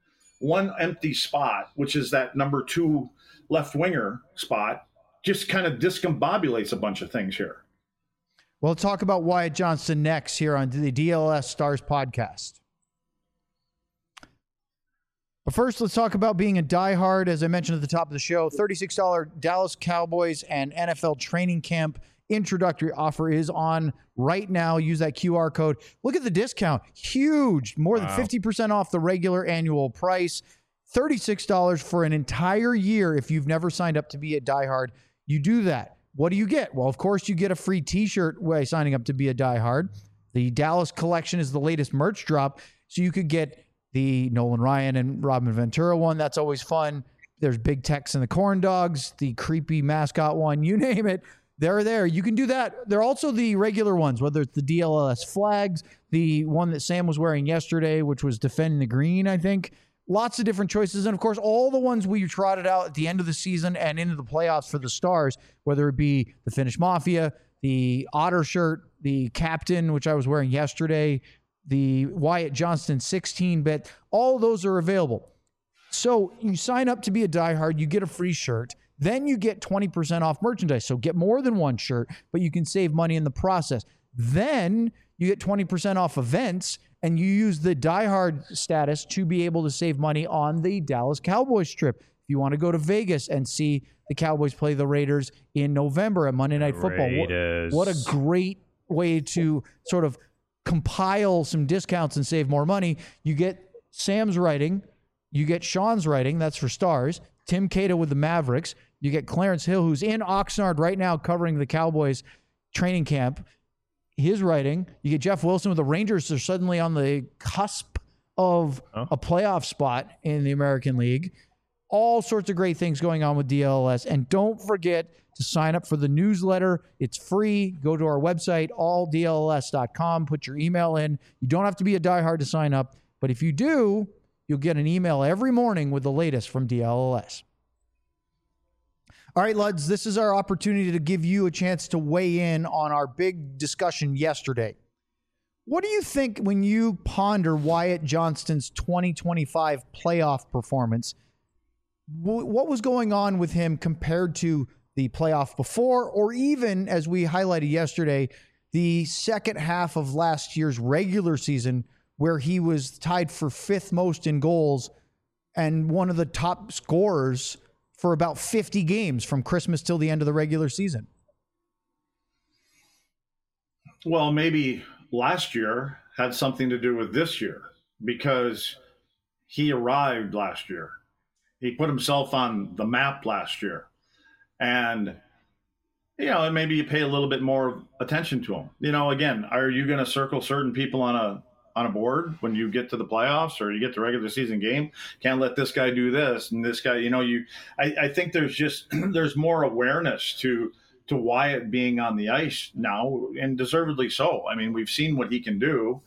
one empty spot, which is that number two left winger spot, just kind of discombobulates a bunch of things here. We'll talk about Wyatt Johnston next here on the D L S Stars podcast. But first, let's talk about being a diehard. As I mentioned at the top of the show, thirty-six dollars Dallas Cowboys and N F L training camp introductory offer is on right now. Use that Q R code. Look at the discount. Huge. More than Wow. fifty percent off the regular annual price. thirty-six dollars for an entire year if you've never signed up to be a diehard. You do that. What do you get? Well, of course, you get a free t-shirt by signing up to be a diehard. The Dallas collection is the latest merch drop, so you could get the Nolan Ryan and Robin Ventura one. That's always fun. There's Big Tex and the Corn Dogs, the creepy mascot one, you name it. They're there. You can do that. They're also the regular ones, whether it's the D L L S flags, the one that Sam was wearing yesterday, which was Defending the Green, I think. Lots of different choices. And, of course, all the ones we trotted out at the end of the season and into the playoffs for the Stars, whether it be the Finnish Mafia, the Otter shirt, the Captain, which I was wearing yesterday, the Wyatt Johnston sixteen bit, all those are available. So you sign up to be a diehard, you get a free shirt, then you get twenty percent off merchandise. So get more than one shirt, but you can save money in the process. Then you get twenty percent off events, and you use the diehard status to be able to save money on the Dallas Cowboys trip. If you want to go to Vegas and see the Cowboys play the Raiders in November at Monday Night Football, what, Raiders. what a great way to sort of compile some discounts and save more money. You get Sam's writing, you get Sean's writing, that's for Stars, Tim Cato with the Mavericks, you get Clarence Hill, who's in Oxnard right now covering the Cowboys training camp, his writing, you get Jeff Wilson with the Rangers. They're suddenly on the cusp of Oh. a playoff spot in the American League. All sorts of great things going on with D L S. And don't forget to sign up for the newsletter. It's free. Go to our website, all D L S dot com. Put your email in. You don't have to be a diehard to sign up. But if you do, you'll get an email every morning with the latest from D L L S. All right, Luds, this is our opportunity to give you a chance to weigh in on our big discussion yesterday. What do you think when you ponder Wyatt Johnston's twenty twenty-five playoff performance? What was going on with him compared to the playoff before, or even, as we highlighted yesterday, the second half of last year's regular season where he was tied for fifth most in goals and one of the top scorers for about fifty games from Christmas till the end of the regular season. Well, maybe last year had something to do with this year because he arrived last year. He put himself on the map last year. And, you know, and maybe you pay a little bit more attention to him. You know, again, are you going to circle certain people on a on a board when you get to the playoffs or you get to regular season game? Can't let this guy do this and this guy, you know, you I, I think there's just there's more awareness to to Wyatt being on the ice now, and deservedly so. I mean, we've seen what he can do.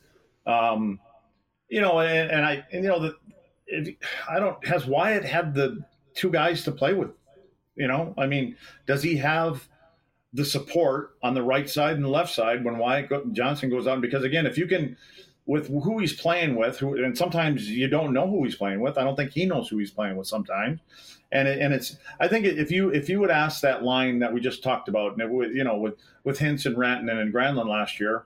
Um, you know, and, and I and you know the if, I don't has Wyatt had the two guys to play with? You know, I mean, does he have the support on the right side and the left side when Wyatt go, Johnston goes out? Because again, if you can, with who he's playing with, who, and sometimes you don't know who he's playing with. I don't think he knows who he's playing with sometimes. And it, and it's, I think if you if you would ask that line that we just talked about, and it would, you know, with with Hintz and Rantanen and Granlund last year,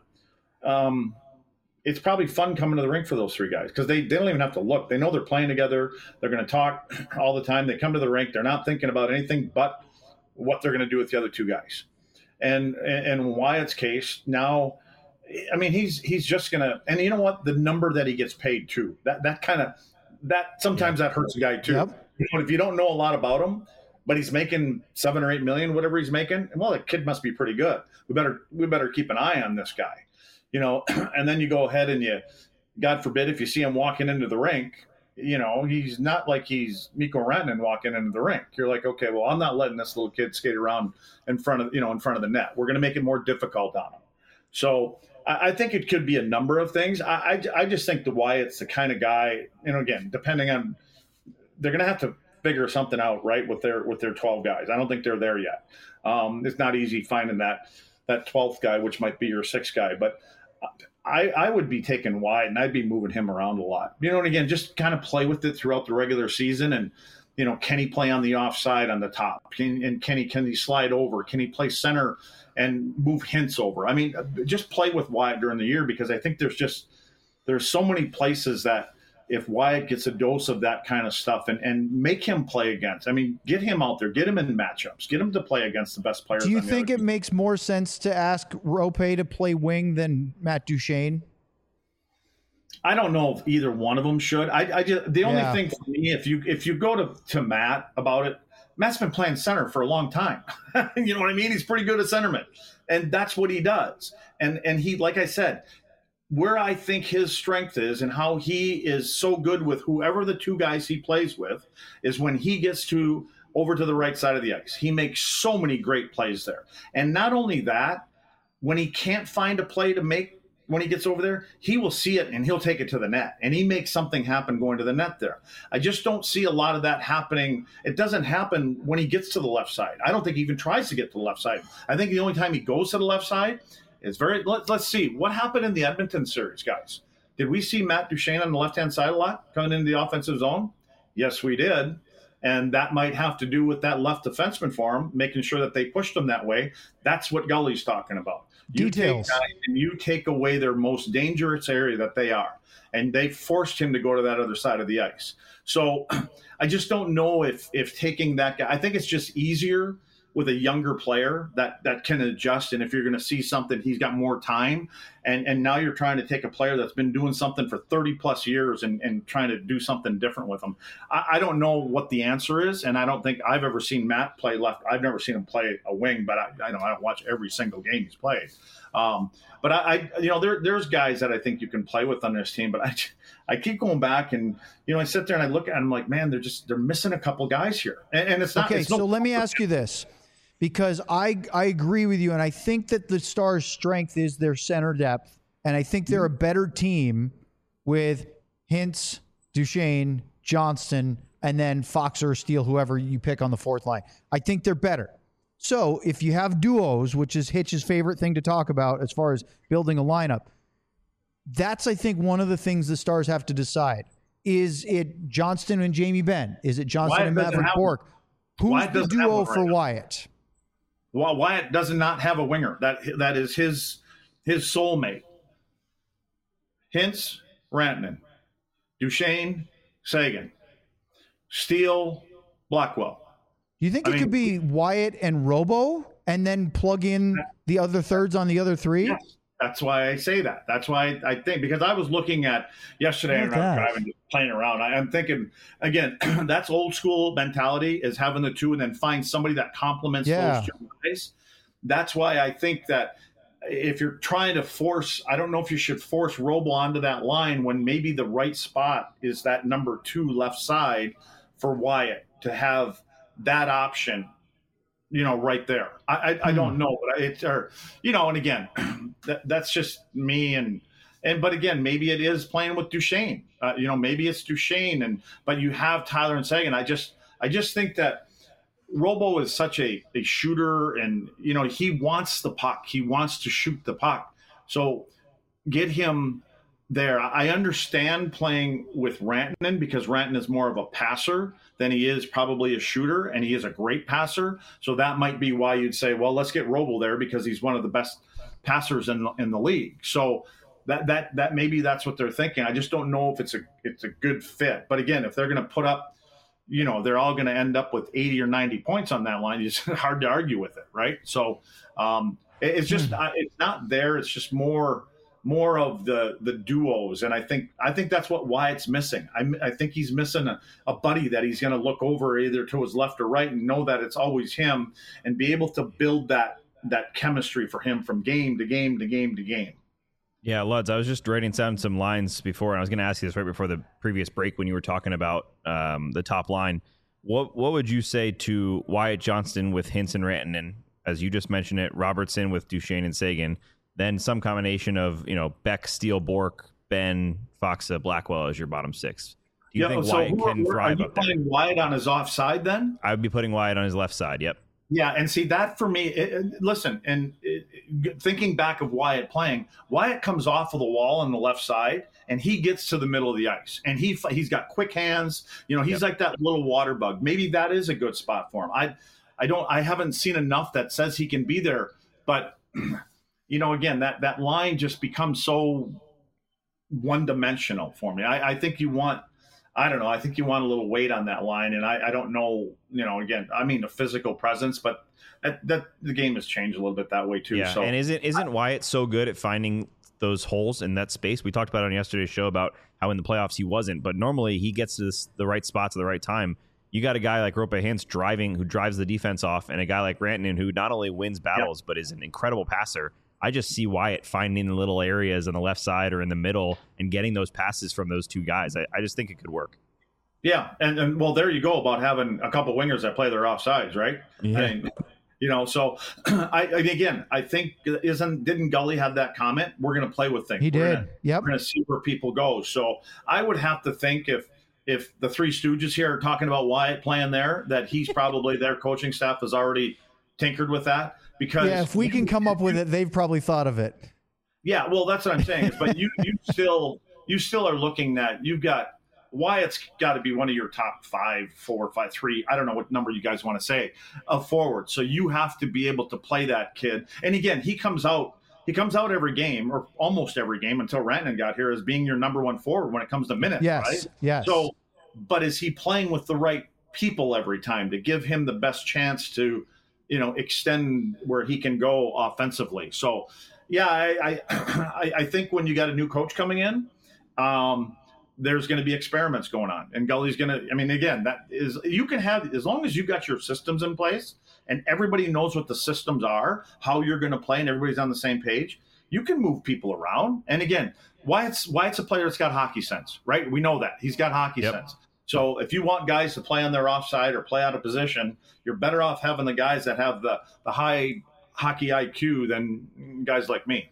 um, it's probably fun coming to the rink for those three guys because they, they don't even have to look. They know they're playing together. They're going to talk all the time. They come to the rink. They're not thinking about anything but what they're going to do with the other two guys. And and in Wyatt's case, now, I mean, he's he's just going to – and you know what? The number that he gets paid too, that that kind of – that sometimes that hurts a guy too. Yep. You know, if you don't know a lot about him, but he's making seven or eight million, whatever he's making, well, the kid must be pretty good. We better we better keep an eye on this guy. You know, and then you go ahead and you, God forbid, if you see him walking into the rink, you know, he's not like he's Mikko Rantanen walking into the rink. You're like, okay, well, I'm not letting this little kid skate around in front of, you know, in front of the net. We're going to make it more difficult on him. So I, I think it could be a number of things. I, I, I just think the Wyatt's the kind of guy, you know, again, depending on, they're going to have to figure something out, right, with their with their twelve guys. I don't think they're there yet. Um, it's not easy finding that that twelfth guy, which might be your sixth guy, but I, I would be taking Wyatt and I'd be moving him around a lot. You know, and again, just kind of play with it throughout the regular season. And, you know, can he play on the offside on the top? Can, and can he, can he slide over? Can he play center and move Hintz over? I mean, just play with Wyatt during the year because I think there's just, there's so many places that if Wyatt gets a dose of that kind of stuff and, and make him play against, I mean, get him out there, get him in matchups, get him to play against the best players. Do you on the think other it team. makes more sense to ask Rope to play wing than Matt Duchene? I don't know if either one of them should. I, I just the only Yeah. thing for me, if you if you go to, to Matt about it, Matt's been playing center for a long time. You know what I mean? He's pretty good at centerman, and that's what he does. And and he, like I said, where I think his strength is and how he is so good with whoever the two guys he plays with is when he gets to over to the right side of the ice. He makes so many great plays there. And not only that, when he can't find a play to make when he gets over there, he will see it and he'll take it to the net. And he makes something happen going to the net there. I just don't see a lot of that happening. It doesn't happen when he gets to the left side. I don't think he even tries to get to the left side. I think the only time he goes to the left side is very let, let's see. What happened in the Edmonton series, guys? Did we see Matt Duchene on the left-hand side a lot coming into the offensive zone? Yes, we did. And that might have to do with that left defenseman for him, making sure that they pushed him that way. That's what Gully's talking about. You Details. Take guys and you take away their most dangerous area that they are. And they forced him to go to that other side of the ice. So I just don't know if if taking that guy – I think it's just easier – with a younger player that, that can adjust. And if you're going to see something, he's got more time. And and now you're trying to take a player that's been doing something for thirty plus years and, and trying to do something different with him. I, I don't know what the answer is. And I don't think I've ever seen Matt play left. I've never seen him play a wing, but I, I know I don't watch every single game he's played. Um, but I, I, you know, there, there's guys that I think you can play with on this team, but I, I keep going back and, you know, I sit there and I look at them like, man, they're just, they're missing a couple guys here. And, and it's not, Okay, it's so no, let me ask you this. Because I I agree with you, and I think that the Stars' strength is their center depth, and I think they're a better team with Hintz, Duchene, Johnston, and then Fox or Steele, whoever you pick on the fourth line. I think they're better. So if you have duos, which is Hitch's favorite thing to talk about as far as building a lineup, that's, I think, one of the things the Stars have to decide. Is it Johnston and Jamie Benn? Is it Johnston Wyatt and doesn't Maverick have- Bourque? Who's Wyatt the doesn't have duo one for right now. Wyatt? Well, Wyatt does not have a winger. That that is his his soulmate. Hintz, Rantanen, Duchene, Sagan. Steele, Blackwell. Do you think I it mean, could be Wyatt and Robo and then plug in the other thirds on the other three? Yes. That's why I say that. That's why I think, because I was looking at yesterday and I was driving, just playing around. I, I'm thinking, again, that's old school mentality, is having the two and then find somebody that complements Yeah. those two guys. That's why I think that if you're trying to force, I don't know if you should force Robo onto that line when maybe the right spot is that number two left side for Wyatt to have that option, you know, right there. I I, I don't know, but it's, or, you know, and again, that, that's just me. And, and, but again, maybe it is playing with Duchesne, uh, you know, maybe it's Duchesne and, but you have Tyler and Seguin. I just, I just think that Robo is such a, a shooter and, you know, he wants the puck. He wants to shoot the puck. So get him there. I understand playing with Rantanen because Rantanen is more of a passer than he is probably a shooter, and he is a great passer. So that might be why you'd say, well, let's get Robo there because he's one of the best passers in the, in the league. So that that that maybe that's what they're thinking. I just don't know if it's a it's a good fit. But again, if they're going to put up, you know, they're all going to end up with eighty or ninety points on that line. It's hard to argue with it, right? So um, it, it's just mm. it's not there. It's just more. more of the the duos, and I think I think that's what Wyatt's missing. I, I think he's missing a, a buddy that he's going to look over either to his left or right and know that it's always him, and be able to build that that chemistry for him from game to game to game to game. Yeah, Luds, I was just writing down some lines before, and I was going to ask you this right before the previous break when you were talking about um, the top line. What what would you say to Wyatt Johnston with Hintz and Rantanen, as you just mentioned it, Robertson with Duchesne and Seguin, then some combination of, you know, Beck, Steele, Bork, Ben, Foxa, Blackwell as your bottom six? Do you yeah, think so Wyatt who, can who, thrive are you up there? putting Wyatt on his offside then? I would be putting Wyatt on his left side, yep. Yeah, and see that for me, it, it, listen, and it, it, thinking back of Wyatt playing, Wyatt comes off of the wall on the left side, and he gets to the middle of the ice, and he he's got quick hands. You know, he's yep. like that little water bug. Maybe that is a good spot for him. I, I don't, I haven't seen enough that says he can be there, but you know, again, that that line just becomes so one dimensional for me. I, I think you want. I don't know. I think you want a little weight on that line, and I, I don't know. You know, again, I mean, a physical presence, but that, that the game has changed a little bit that way too. Yeah, so, and isn't isn't Wyatt so good at finding those holes in that space? We talked about it on yesterday's show about how in the playoffs he wasn't, but normally he gets to this, the right spots at the right time. You got a guy like Rope Hintz driving, who drives the defense off, and a guy like Rantanen who not only wins battles yep. but is an incredible passer. I just see Wyatt finding the little areas on the left side or in the middle and getting those passes from those two guys. I, I just think it could work. Yeah, and, and well, there you go about having a couple wingers that play their offsides, right? Yeah. I mean, you know, so I again, I think isn't didn't Gully have that comment? We're going to play with things. He we're did. Gonna, yep. We're going to see where people go. So I would have to think if if the Three Stooges here are talking about Wyatt playing there, that he's probably their coaching staff has already tinkered with that. Because yeah, if we can come up with it, they've probably thought of it. Yeah, well, that's what I'm saying. But you you still you still are looking at you've got. Wyatt's got to be one of your top five, four, five, three. I don't know what number you guys want to say of forward. So you have to be able to play that kid. And again, he comes out. He comes out every game, or almost every game, until Rantanen got here, as being your number one forward when it comes to minutes. Yes, right? yes. So, but is he playing with the right people every time to give him the best chance to, you know, extend where he can go offensively? So, yeah, I I, I think when you got a new coach coming in. Um, there's going to be experiments going on, and Gully's going to, I mean, again, that is, you can have, as long as you've got your systems in place and everybody knows what the systems are, how you're going to play, and everybody's on the same page, you can move people around. And again, Wyatt's, Wyatt's a player that's got hockey sense, right? We know that. He's got hockey yep. sense. So if you want guys to play on their offside or play out of position, you're better off having the guys that have the, the high hockey I Q than guys like me.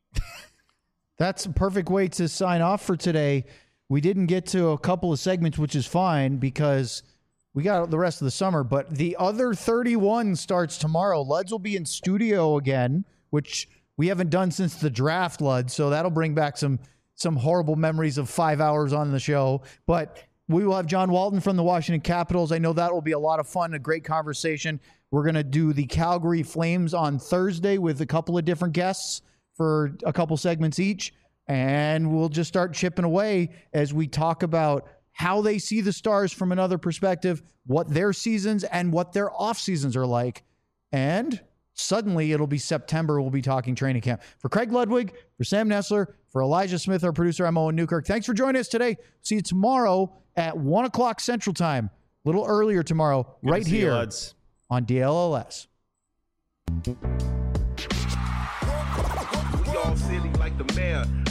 That's a perfect way to sign off for today. We didn't get to a couple of segments, which is fine because we got the rest of the summer. But the other thirty-one starts tomorrow. Luds will be in studio again, which we haven't done since the draft, Luds. So that'll bring back some some horrible memories of five hours on the show. But we will have John Walton from the Washington Capitals. I know that will be a lot of fun, a great conversation. We're going to do the Calgary Flames on Thursday with a couple of different guests for a couple segments each. And we'll just start chipping away as we talk about how they see the Stars from another perspective, what their seasons and what their off seasons are like. And suddenly it'll be September. We'll be talking training camp. For Craig Ludwig, for Sam Nestler, for Elijah Smith, our producer, I'm Owen Newkirk. Thanks for joining us today. See you tomorrow at one o'clock Central Time. A little earlier tomorrow, Good right to see you, here lads. on D L L S. We all silly like the mayor.